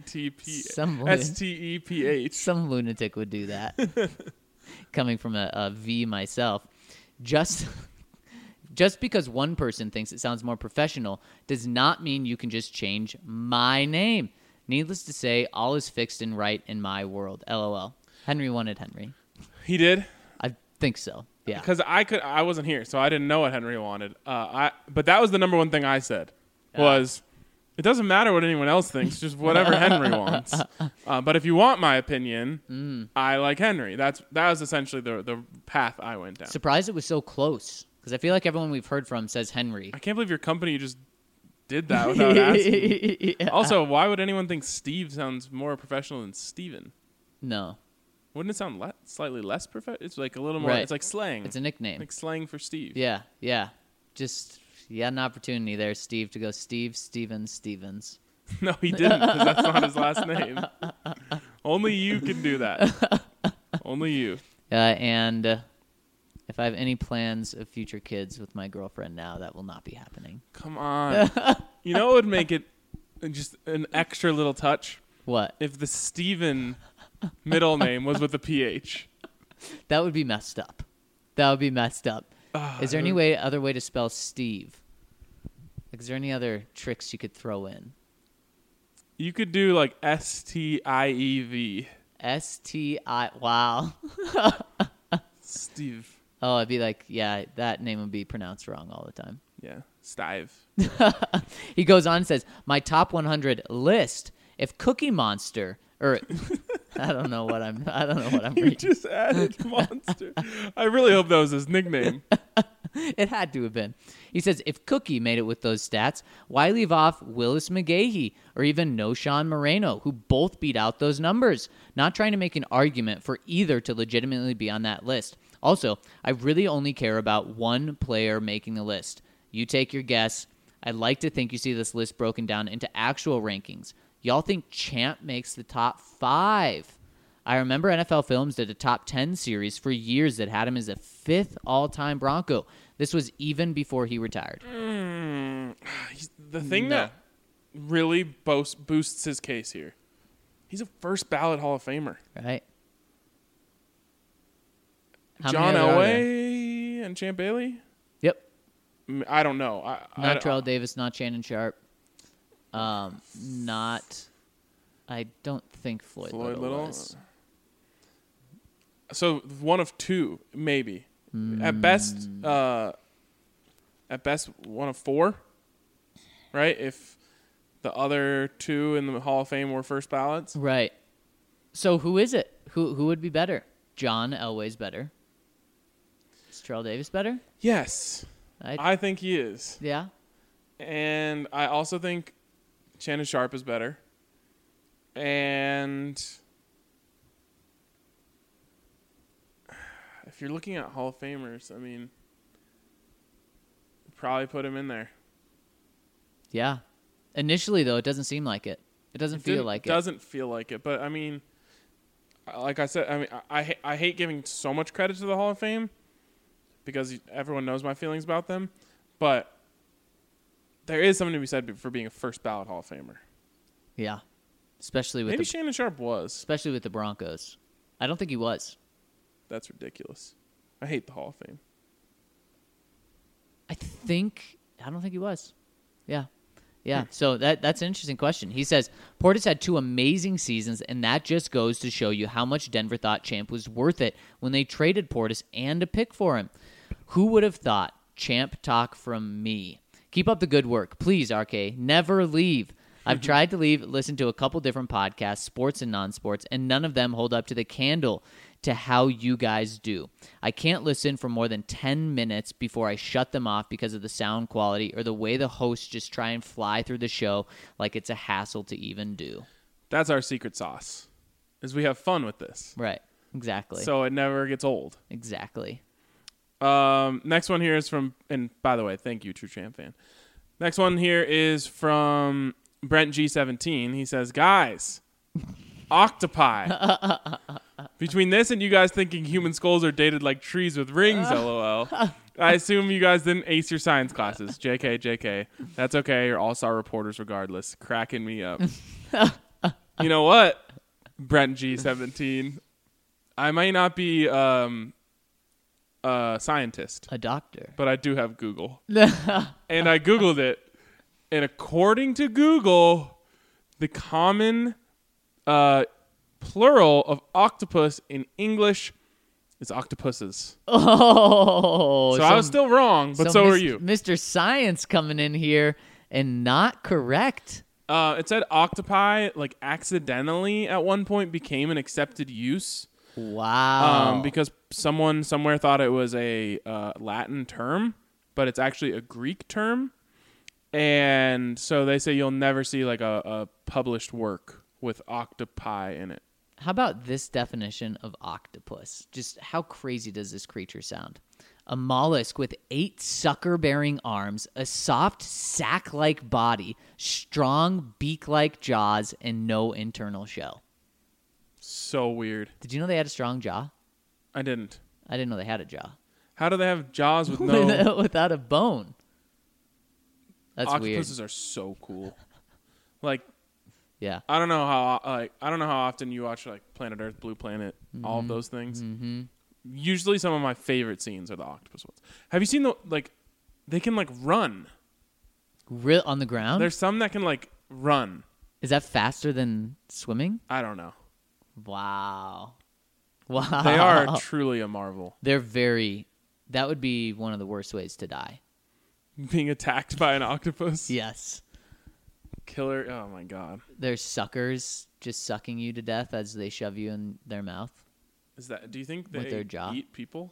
STEPH. Some lunatic would do that. Coming from a V myself, just because one person thinks it sounds more professional does not mean you can just change my name. Needless to say, all is fixed and right in my world. LOL. Henry wanted Henry. He did? I think so. Yeah. Because I wasn't here, so I didn't know what Henry wanted. But that was the number one thing I said was, it doesn't matter what anyone else thinks, just whatever Henry wants. But if you want my opinion, I like Henry. That was essentially the path I went down. Surprised it was so close, because I feel like everyone we've heard from says Henry. I can't believe your company just did that without asking. Yeah. Also, why would anyone think Steve sounds more professional than Steven? No. Wouldn't it sound slightly less professional? It's like a little more. Right. It's like slang. It's a nickname. Like slang for Steve. Yeah. Just you had an opportunity there, Steve, to go Stevens. No, he didn't, because that's not his last name. Only you can do that. Only you. And if I have any plans of future kids with my girlfriend now, that will not be happening. Come on. You know what would make it just an extra little touch? What? If the Steven middle name was with a PH. That would be messed up. Is there any other way to spell Steve? Like, is there any other tricks you could throw in? You could do like STIEV. Wow. Steve. Oh, I'd be like, yeah, that name would be pronounced wrong all the time. Yeah, Stive. He goes on and says, my top 100 list. If Cookie Monster, or I don't know what I'm reading. You just added Monster. I really hope that was his nickname. It had to have been. He says, if Cookie made it with those stats, why leave off Willis McGahee or even Noshawn Moreno, who both beat out those numbers? Not trying to make an argument for either to legitimately be on that list. Also, I really only care about one player making the list. You take your guess. I'd like to think you see this list broken down into actual rankings. Y'all think Champ makes the top 5? I remember NFL Films did a top 10 series for years that had him as a 5th all-time Bronco. This was even before he retired. The thing that really boosts his case here, he's a first ballot Hall of Famer. Right. John Elway and Champ Bailey? Yep. I don't know. Not Terrell Davis, not Shannon Sharp. I don't think Floyd Little was. So one of two, maybe. At best, one of four, right? If the other two in the Hall of Fame were first ballots. Right. So who is it? Who would be better? John Elway's better. Is Terrell Davis better? Yes. I think he is. Yeah. And I also think Shannon Sharpe is better. And if you're looking at Hall of Famers, I mean, probably put him in there. Yeah. Initially, though, it doesn't seem like it. It doesn't feel like it. It doesn't feel like it. But, I mean, like I said, I mean, I hate giving so much credit to the Hall of Fame because everyone knows my feelings about them. But there is something to be said for being a first ballot Hall of Famer. Yeah. Especially with maybe Shannon Sharpe was. Especially with the Broncos. I don't think he was. That's ridiculous. I hate the Hall of Fame. I don't think he was. Yeah. Yeah. So that's an interesting question. He says, Portis had 2 amazing seasons, and that just goes to show you how much Denver thought Champ was worth it when they traded Portis and a pick for him. Who would have thought? Champ talk from me. Keep up the good work. Please, RK, never leave. I've tried to listen to a couple different podcasts, sports and non-sports, and none of them hold up to the candle to how you guys do. I can't listen for more than 10 minutes before I shut them off because of the sound quality or the way the hosts just try and fly through the show like it's a hassle to even do. That's our secret sauce, is we have fun with this. Right. Exactly. So it never gets old. Exactly. Next one here is from, and by the way, thank you, True Champ fan. Next one here is from Brent G17. He says, guys, octopi. Between this and you guys thinking human skulls are dated like trees with rings, LOL. I assume you guys didn't ace your science classes. JK. That's okay. You're all-star reporters regardless. Cracking me up. You know what, Brent G17? I might not be a scientist. A doctor. But I do have Google. And I Googled it. And according to Google, the common plural of octopus in English is octopuses. Oh. So I was still wrong, but so are you. Mr. Science coming in here and not correct. It said octopi, like, accidentally at one point became an accepted use. Wow. Because someone somewhere thought it was a Latin term, but it's actually a Greek term. And so they say you'll never see like a published work with octopi in it. How about this definition of octopus? Just how crazy does this creature sound? A mollusk with 8 sucker-bearing arms, a soft sack-like body, strong beak-like jaws, and no internal shell. So weird. Did you know they had a strong jaw? I didn't. I didn't know they had a jaw. How do they have jaws with no... Without a bone? That's Octopuses weird. are so cool. Like, yeah. I don't know how often you watch like Planet Earth, Blue Planet, all of those things. Mm-hmm. Usually, some of my favorite scenes are the octopus ones. Have you seen they can like run? Real on the ground? There's some that can like run. Is that faster than swimming? I don't know. Wow. They are truly a marvel. They're very. That would be one of the worst ways to die. Being attacked by an octopus? Yes. Killer. Oh, my God. They're suckers just sucking you to death as they shove you in their mouth. Do you think they with their jaw? Eat people?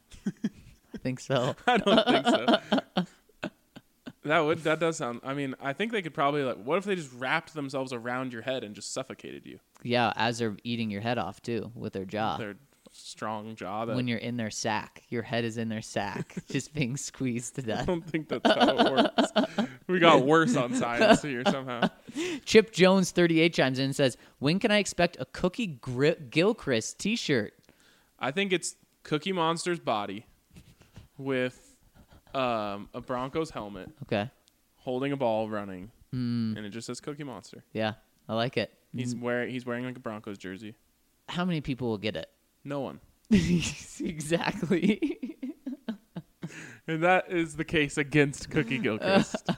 I think so. I don't think so. That does sound... I mean, I think they could probably... what if they just wrapped themselves around your head and just suffocated you? Yeah, as they're eating your head off, too, with their jaw. Their strong jaw. When you're in their sack. Your head is in their sack, just being squeezed to death. I don't think that's how it works. We got worse on science here somehow. Chip Jones 38 chimes in and says, when can I expect a Cookie Gilchrist t-shirt? I think it's Cookie Monster's body with a Broncos helmet. Okay. Holding a ball running. And it just says Cookie Monster. Yeah, I like it. He's wearing like a Broncos jersey. How many people will get it? No one. Exactly. And that is the case against Cookie Gilchrist.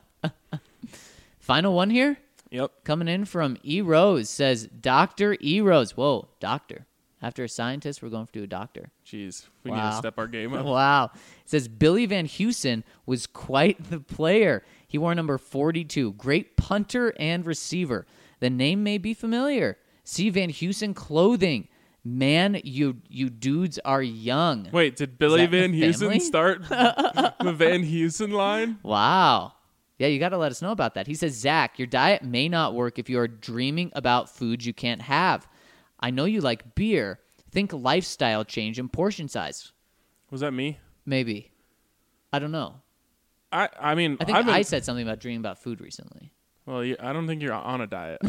Final one here? Yep. Coming in from E. Rose says, Dr. E. Rose. Whoa, doctor. After a scientist, we're going to do a doctor. Jeez, we need to step our game up. Wow. It says Billy Van Heusen was quite the player. He wore number 42. Great punter and receiver. The name may be familiar. See Van Heusen clothing. Man, you dudes are young. Wait, did Billy Van Heusen start the Van Heusen line? Wow. Yeah, you got to let us know about that. He says, Zach, your diet may not work if you are dreaming about foods you can't have. I know you like beer. Think lifestyle change and portion size. Was that me? Maybe. I don't know. I mean, I think I said something about dreaming about food recently. Well, I don't think you're on a diet.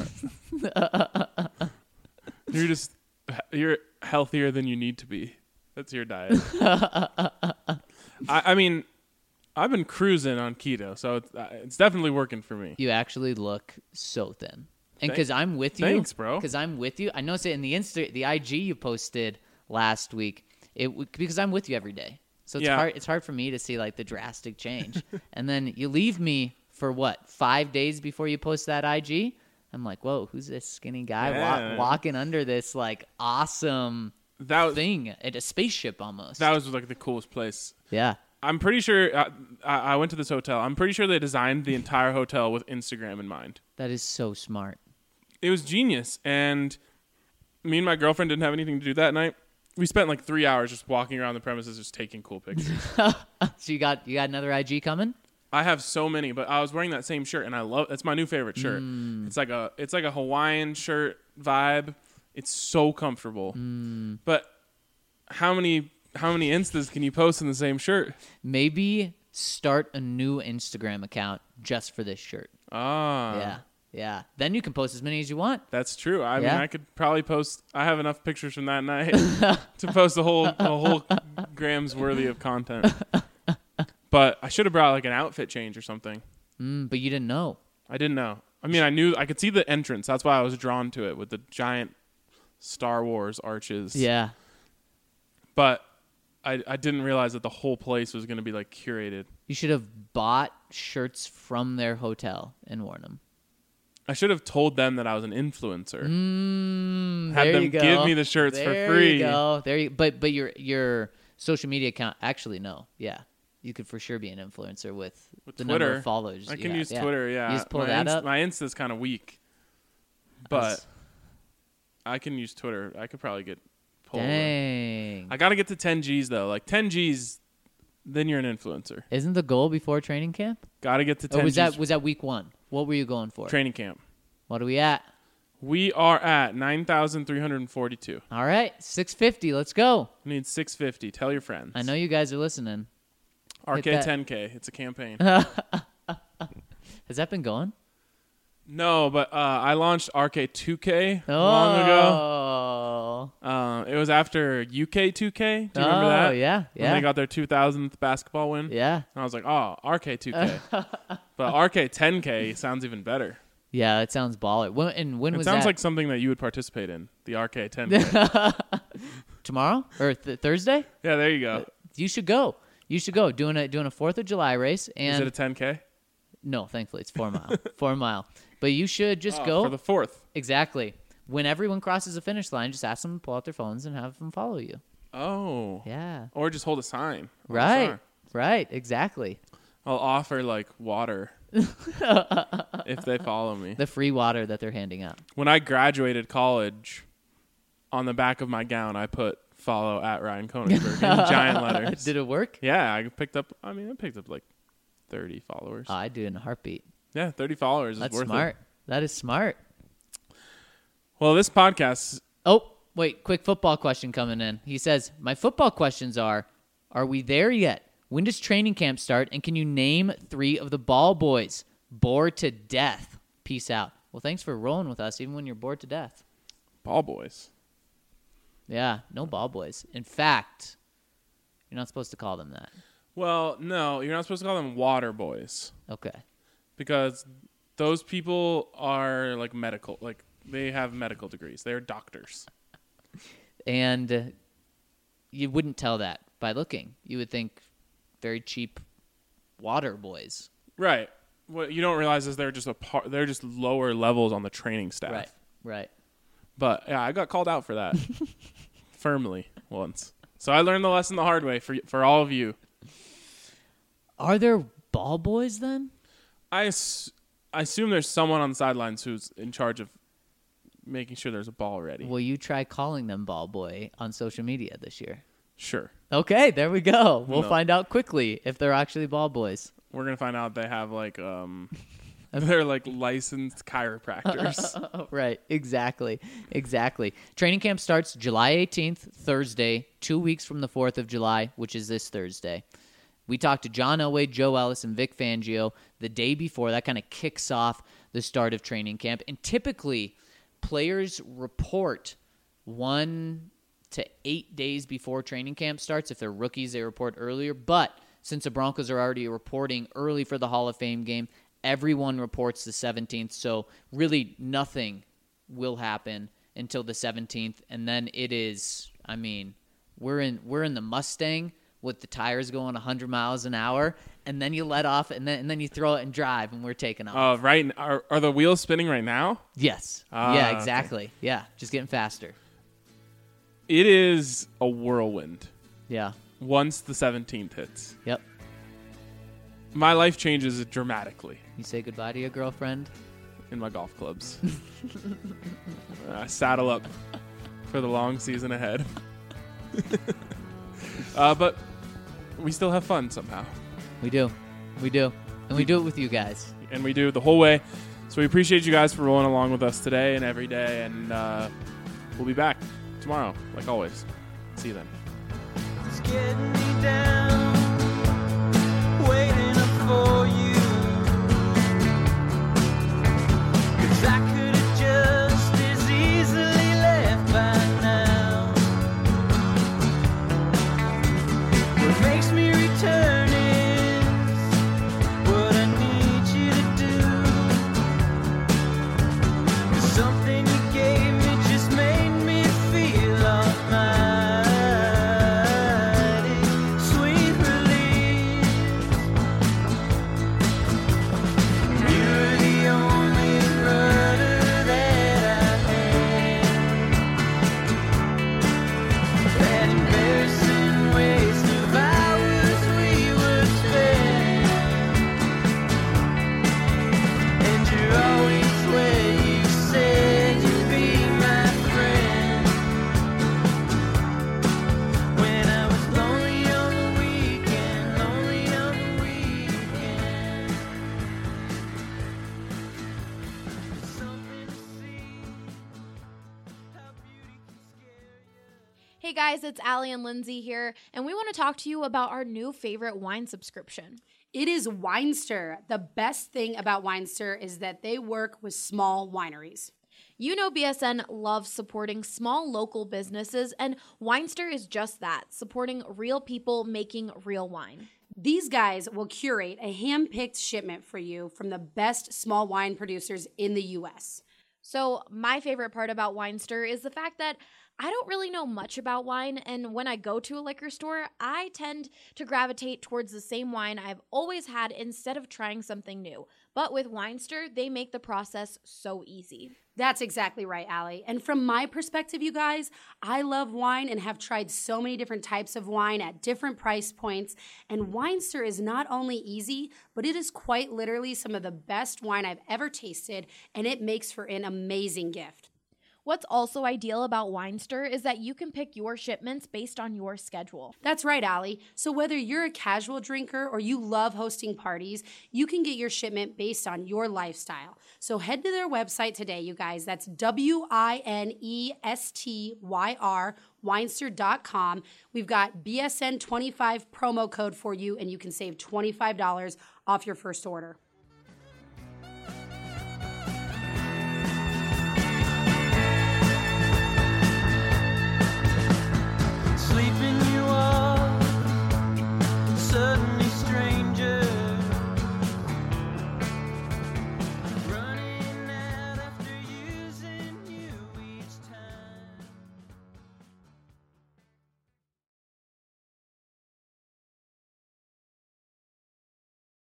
You're healthier than you need to be. That's your diet. I mean, I've been cruising on keto, so it's definitely working for me. You actually look so thin. And because I'm with you. Thanks, bro. Because I'm with you. I noticed it in the IG you posted last week. Because I'm with you every day. So it's hard for me to see like the drastic change. And then you leave me for what, 5 days before you post that IG? I'm like, whoa, who's this skinny guy walking under this like awesome thing at a spaceship almost? That was like the coolest place. Yeah. I'm pretty sure I went to this hotel. I'm pretty sure they designed the entire hotel with Instagram in mind. That is so smart. It was genius. And me and my girlfriend didn't have anything to do that night. We spent like 3 hours just walking around the premises, just taking cool pictures. So you got another IG coming? I have so many, but I was wearing that same shirt, and it's my new favorite shirt. It's like a Hawaiian shirt vibe. It's so comfortable. But how many Instas can you post in the same shirt? Maybe start a new Instagram account just for this shirt. Yeah. Then you can post as many as you want. That's true. I mean, I could probably post. I have enough pictures from that night to post a whole gram's worthy of content. But I should have brought like an outfit change or something. But you didn't know. I didn't know. I mean, I knew I could see the entrance. That's why I was drawn to it with the giant Star Wars arches. Yeah. But I didn't realize that the whole place was going to be like curated. You should have bought shirts from their hotel and worn them. I should have told them that I was an influencer. Had them give me the shirts for free. There you go. But your social media account, actually, no. Yeah. You could for sure be an influencer with the Twitter. Number of followers. I can use Twitter, yeah. You just pull that up? My Insta's kind of weak. But I can use Twitter. I could probably get pulled. Dang. I got to get to 10 Gs, though. Like 10 Gs, then you're an influencer. Isn't the goal before training camp? Got to get to 10 Gs. Was Was that week one? What were you going for? Training camp. What are we at? We are at 9,342. All right, 650. Let's go. We need 650. Tell your friends. I know you guys are listening. RK10K. It's a campaign. Has that been going? No, but I launched RK2K long ago. It was after UK2K. Do you remember that? Yeah. When they got their 2000th basketball win. Yeah. And I was like, RK2K. But RK10K sounds even better. Yeah, it sounds baller. When was that? It sounds like something that you would participate in, the RK10K. Tomorrow? Or Thursday? Yeah, there you go. You should go. Doing a 4th of July race. And is it a 10K? No, thankfully it's 4 mile. 4 mile. But you should just go. For the 4th. Exactly. When everyone crosses the finish line, just ask them to pull out their phones and have them follow you. Oh. Yeah. Or just hold a sign. Right. Right. Exactly. I'll offer like water if they follow me. The free water that they're handing out. When I graduated college, on the back of my gown, I put follow at Ryan Koenigsberg in giant letters. Did it work? Yeah, I picked up like 30 followers. Oh, I'd do it in a heartbeat. Yeah, 30 followers is worth it. That's smart. That is smart. Well, this podcast... Oh, wait, quick football question coming in. He says, my football questions are we there yet? When does training camp start? And can you name 3 of the ball boys? Bored to death. Peace out. Well, thanks for rolling with us, even when you're bored to death. Ball boys. Yeah, no ball boys. In fact, you're not supposed to call them that. Well, no, you're not supposed to call them water boys. Okay. Because those people are like medical, like they have medical degrees. They're doctors. And you wouldn't tell that by looking. You would think very cheap water boys. Right. What you don't realize is they're just lower levels on the training staff. Right. But yeah, I got called out for that. firmly once. So I learned the lesson the hard way for all of you. Are there ball boys then? I assume there's someone on the sidelines who's in charge of making sure there's a ball ready. Will you try calling them ball boy on social media this year? Sure. Okay, there we go. We'll find out quickly if they're actually ball boys. We're going to find out they have they're like licensed chiropractors. Right, exactly. Training camp starts July 18th, Thursday, 2 weeks from the 4th of July, which is this Thursday. We talked to John Elway, Joe Ellis, and Vic Fangio the day before. That kind of kicks off the start of training camp. And typically, players report 1 to 8 days before training camp starts. If they're rookies, they report earlier. But since the Broncos are already reporting early for the Hall of Fame game, everyone reports the 17th. So really nothing will happen until the 17th. And then it is, we're in the Mustang with the tires going 100 miles an hour, and then you let off, and then you throw it and drive, and we're taking off. Right. Are the wheels spinning right now? Yes. Yeah, exactly. Okay. Yeah, just getting faster. It is a whirlwind. Yeah. Once the 17th hits. Yep. My life changes dramatically. You say goodbye to your girlfriend? In my golf clubs. Saddle up for the long season ahead. But we still have fun somehow. We do. And we do it with you guys. And we do the whole way. So we appreciate you guys for rolling along with us today and every day. And we'll be back tomorrow, like always. See you then. It's getting me down, waiting up for you. 'Cause I could have just as easily left by now. What makes me return is what I need you to do. 'Cause something you gave me just made me feel almighty. Sweet relief. You're the only rudder that I had. That embarrassing waste of hours we would spend. And you're always where you said you'd be my friend. When I was lonely on the weekend. Something to see, how beauty can scare you. Hey guys, it's Allie and Lindsay here, and we want to talk to you about our new favorite wine subscription. It is Winester. The best thing about Winester is that they work with small wineries. You know BSN loves supporting small local businesses, and Winester is just that, supporting real people making real wine. These guys will curate a hand-picked shipment for you from the best small wine producers in the U.S. So my favorite part about Winester is the fact that I don't really know much about wine, and when I go to a liquor store, I tend to gravitate towards the same wine I've always had instead of trying something new. But with Winester, they make the process so easy. That's exactly right, Allie. And from my perspective, you guys, I love wine and have tried so many different types of wine at different price points. And Winester is not only easy, but it is quite literally some of the best wine I've ever tasted, and it makes for an amazing gift. What's also ideal about Winester is that you can pick your shipments based on your schedule. That's right, Allie. So whether you're a casual drinker or you love hosting parties, you can get your shipment based on your lifestyle. So head to their website today, you guys. That's WINESTYR, Winester.com. We've got BSN25 promo code for you, and you can save $25 off your first order.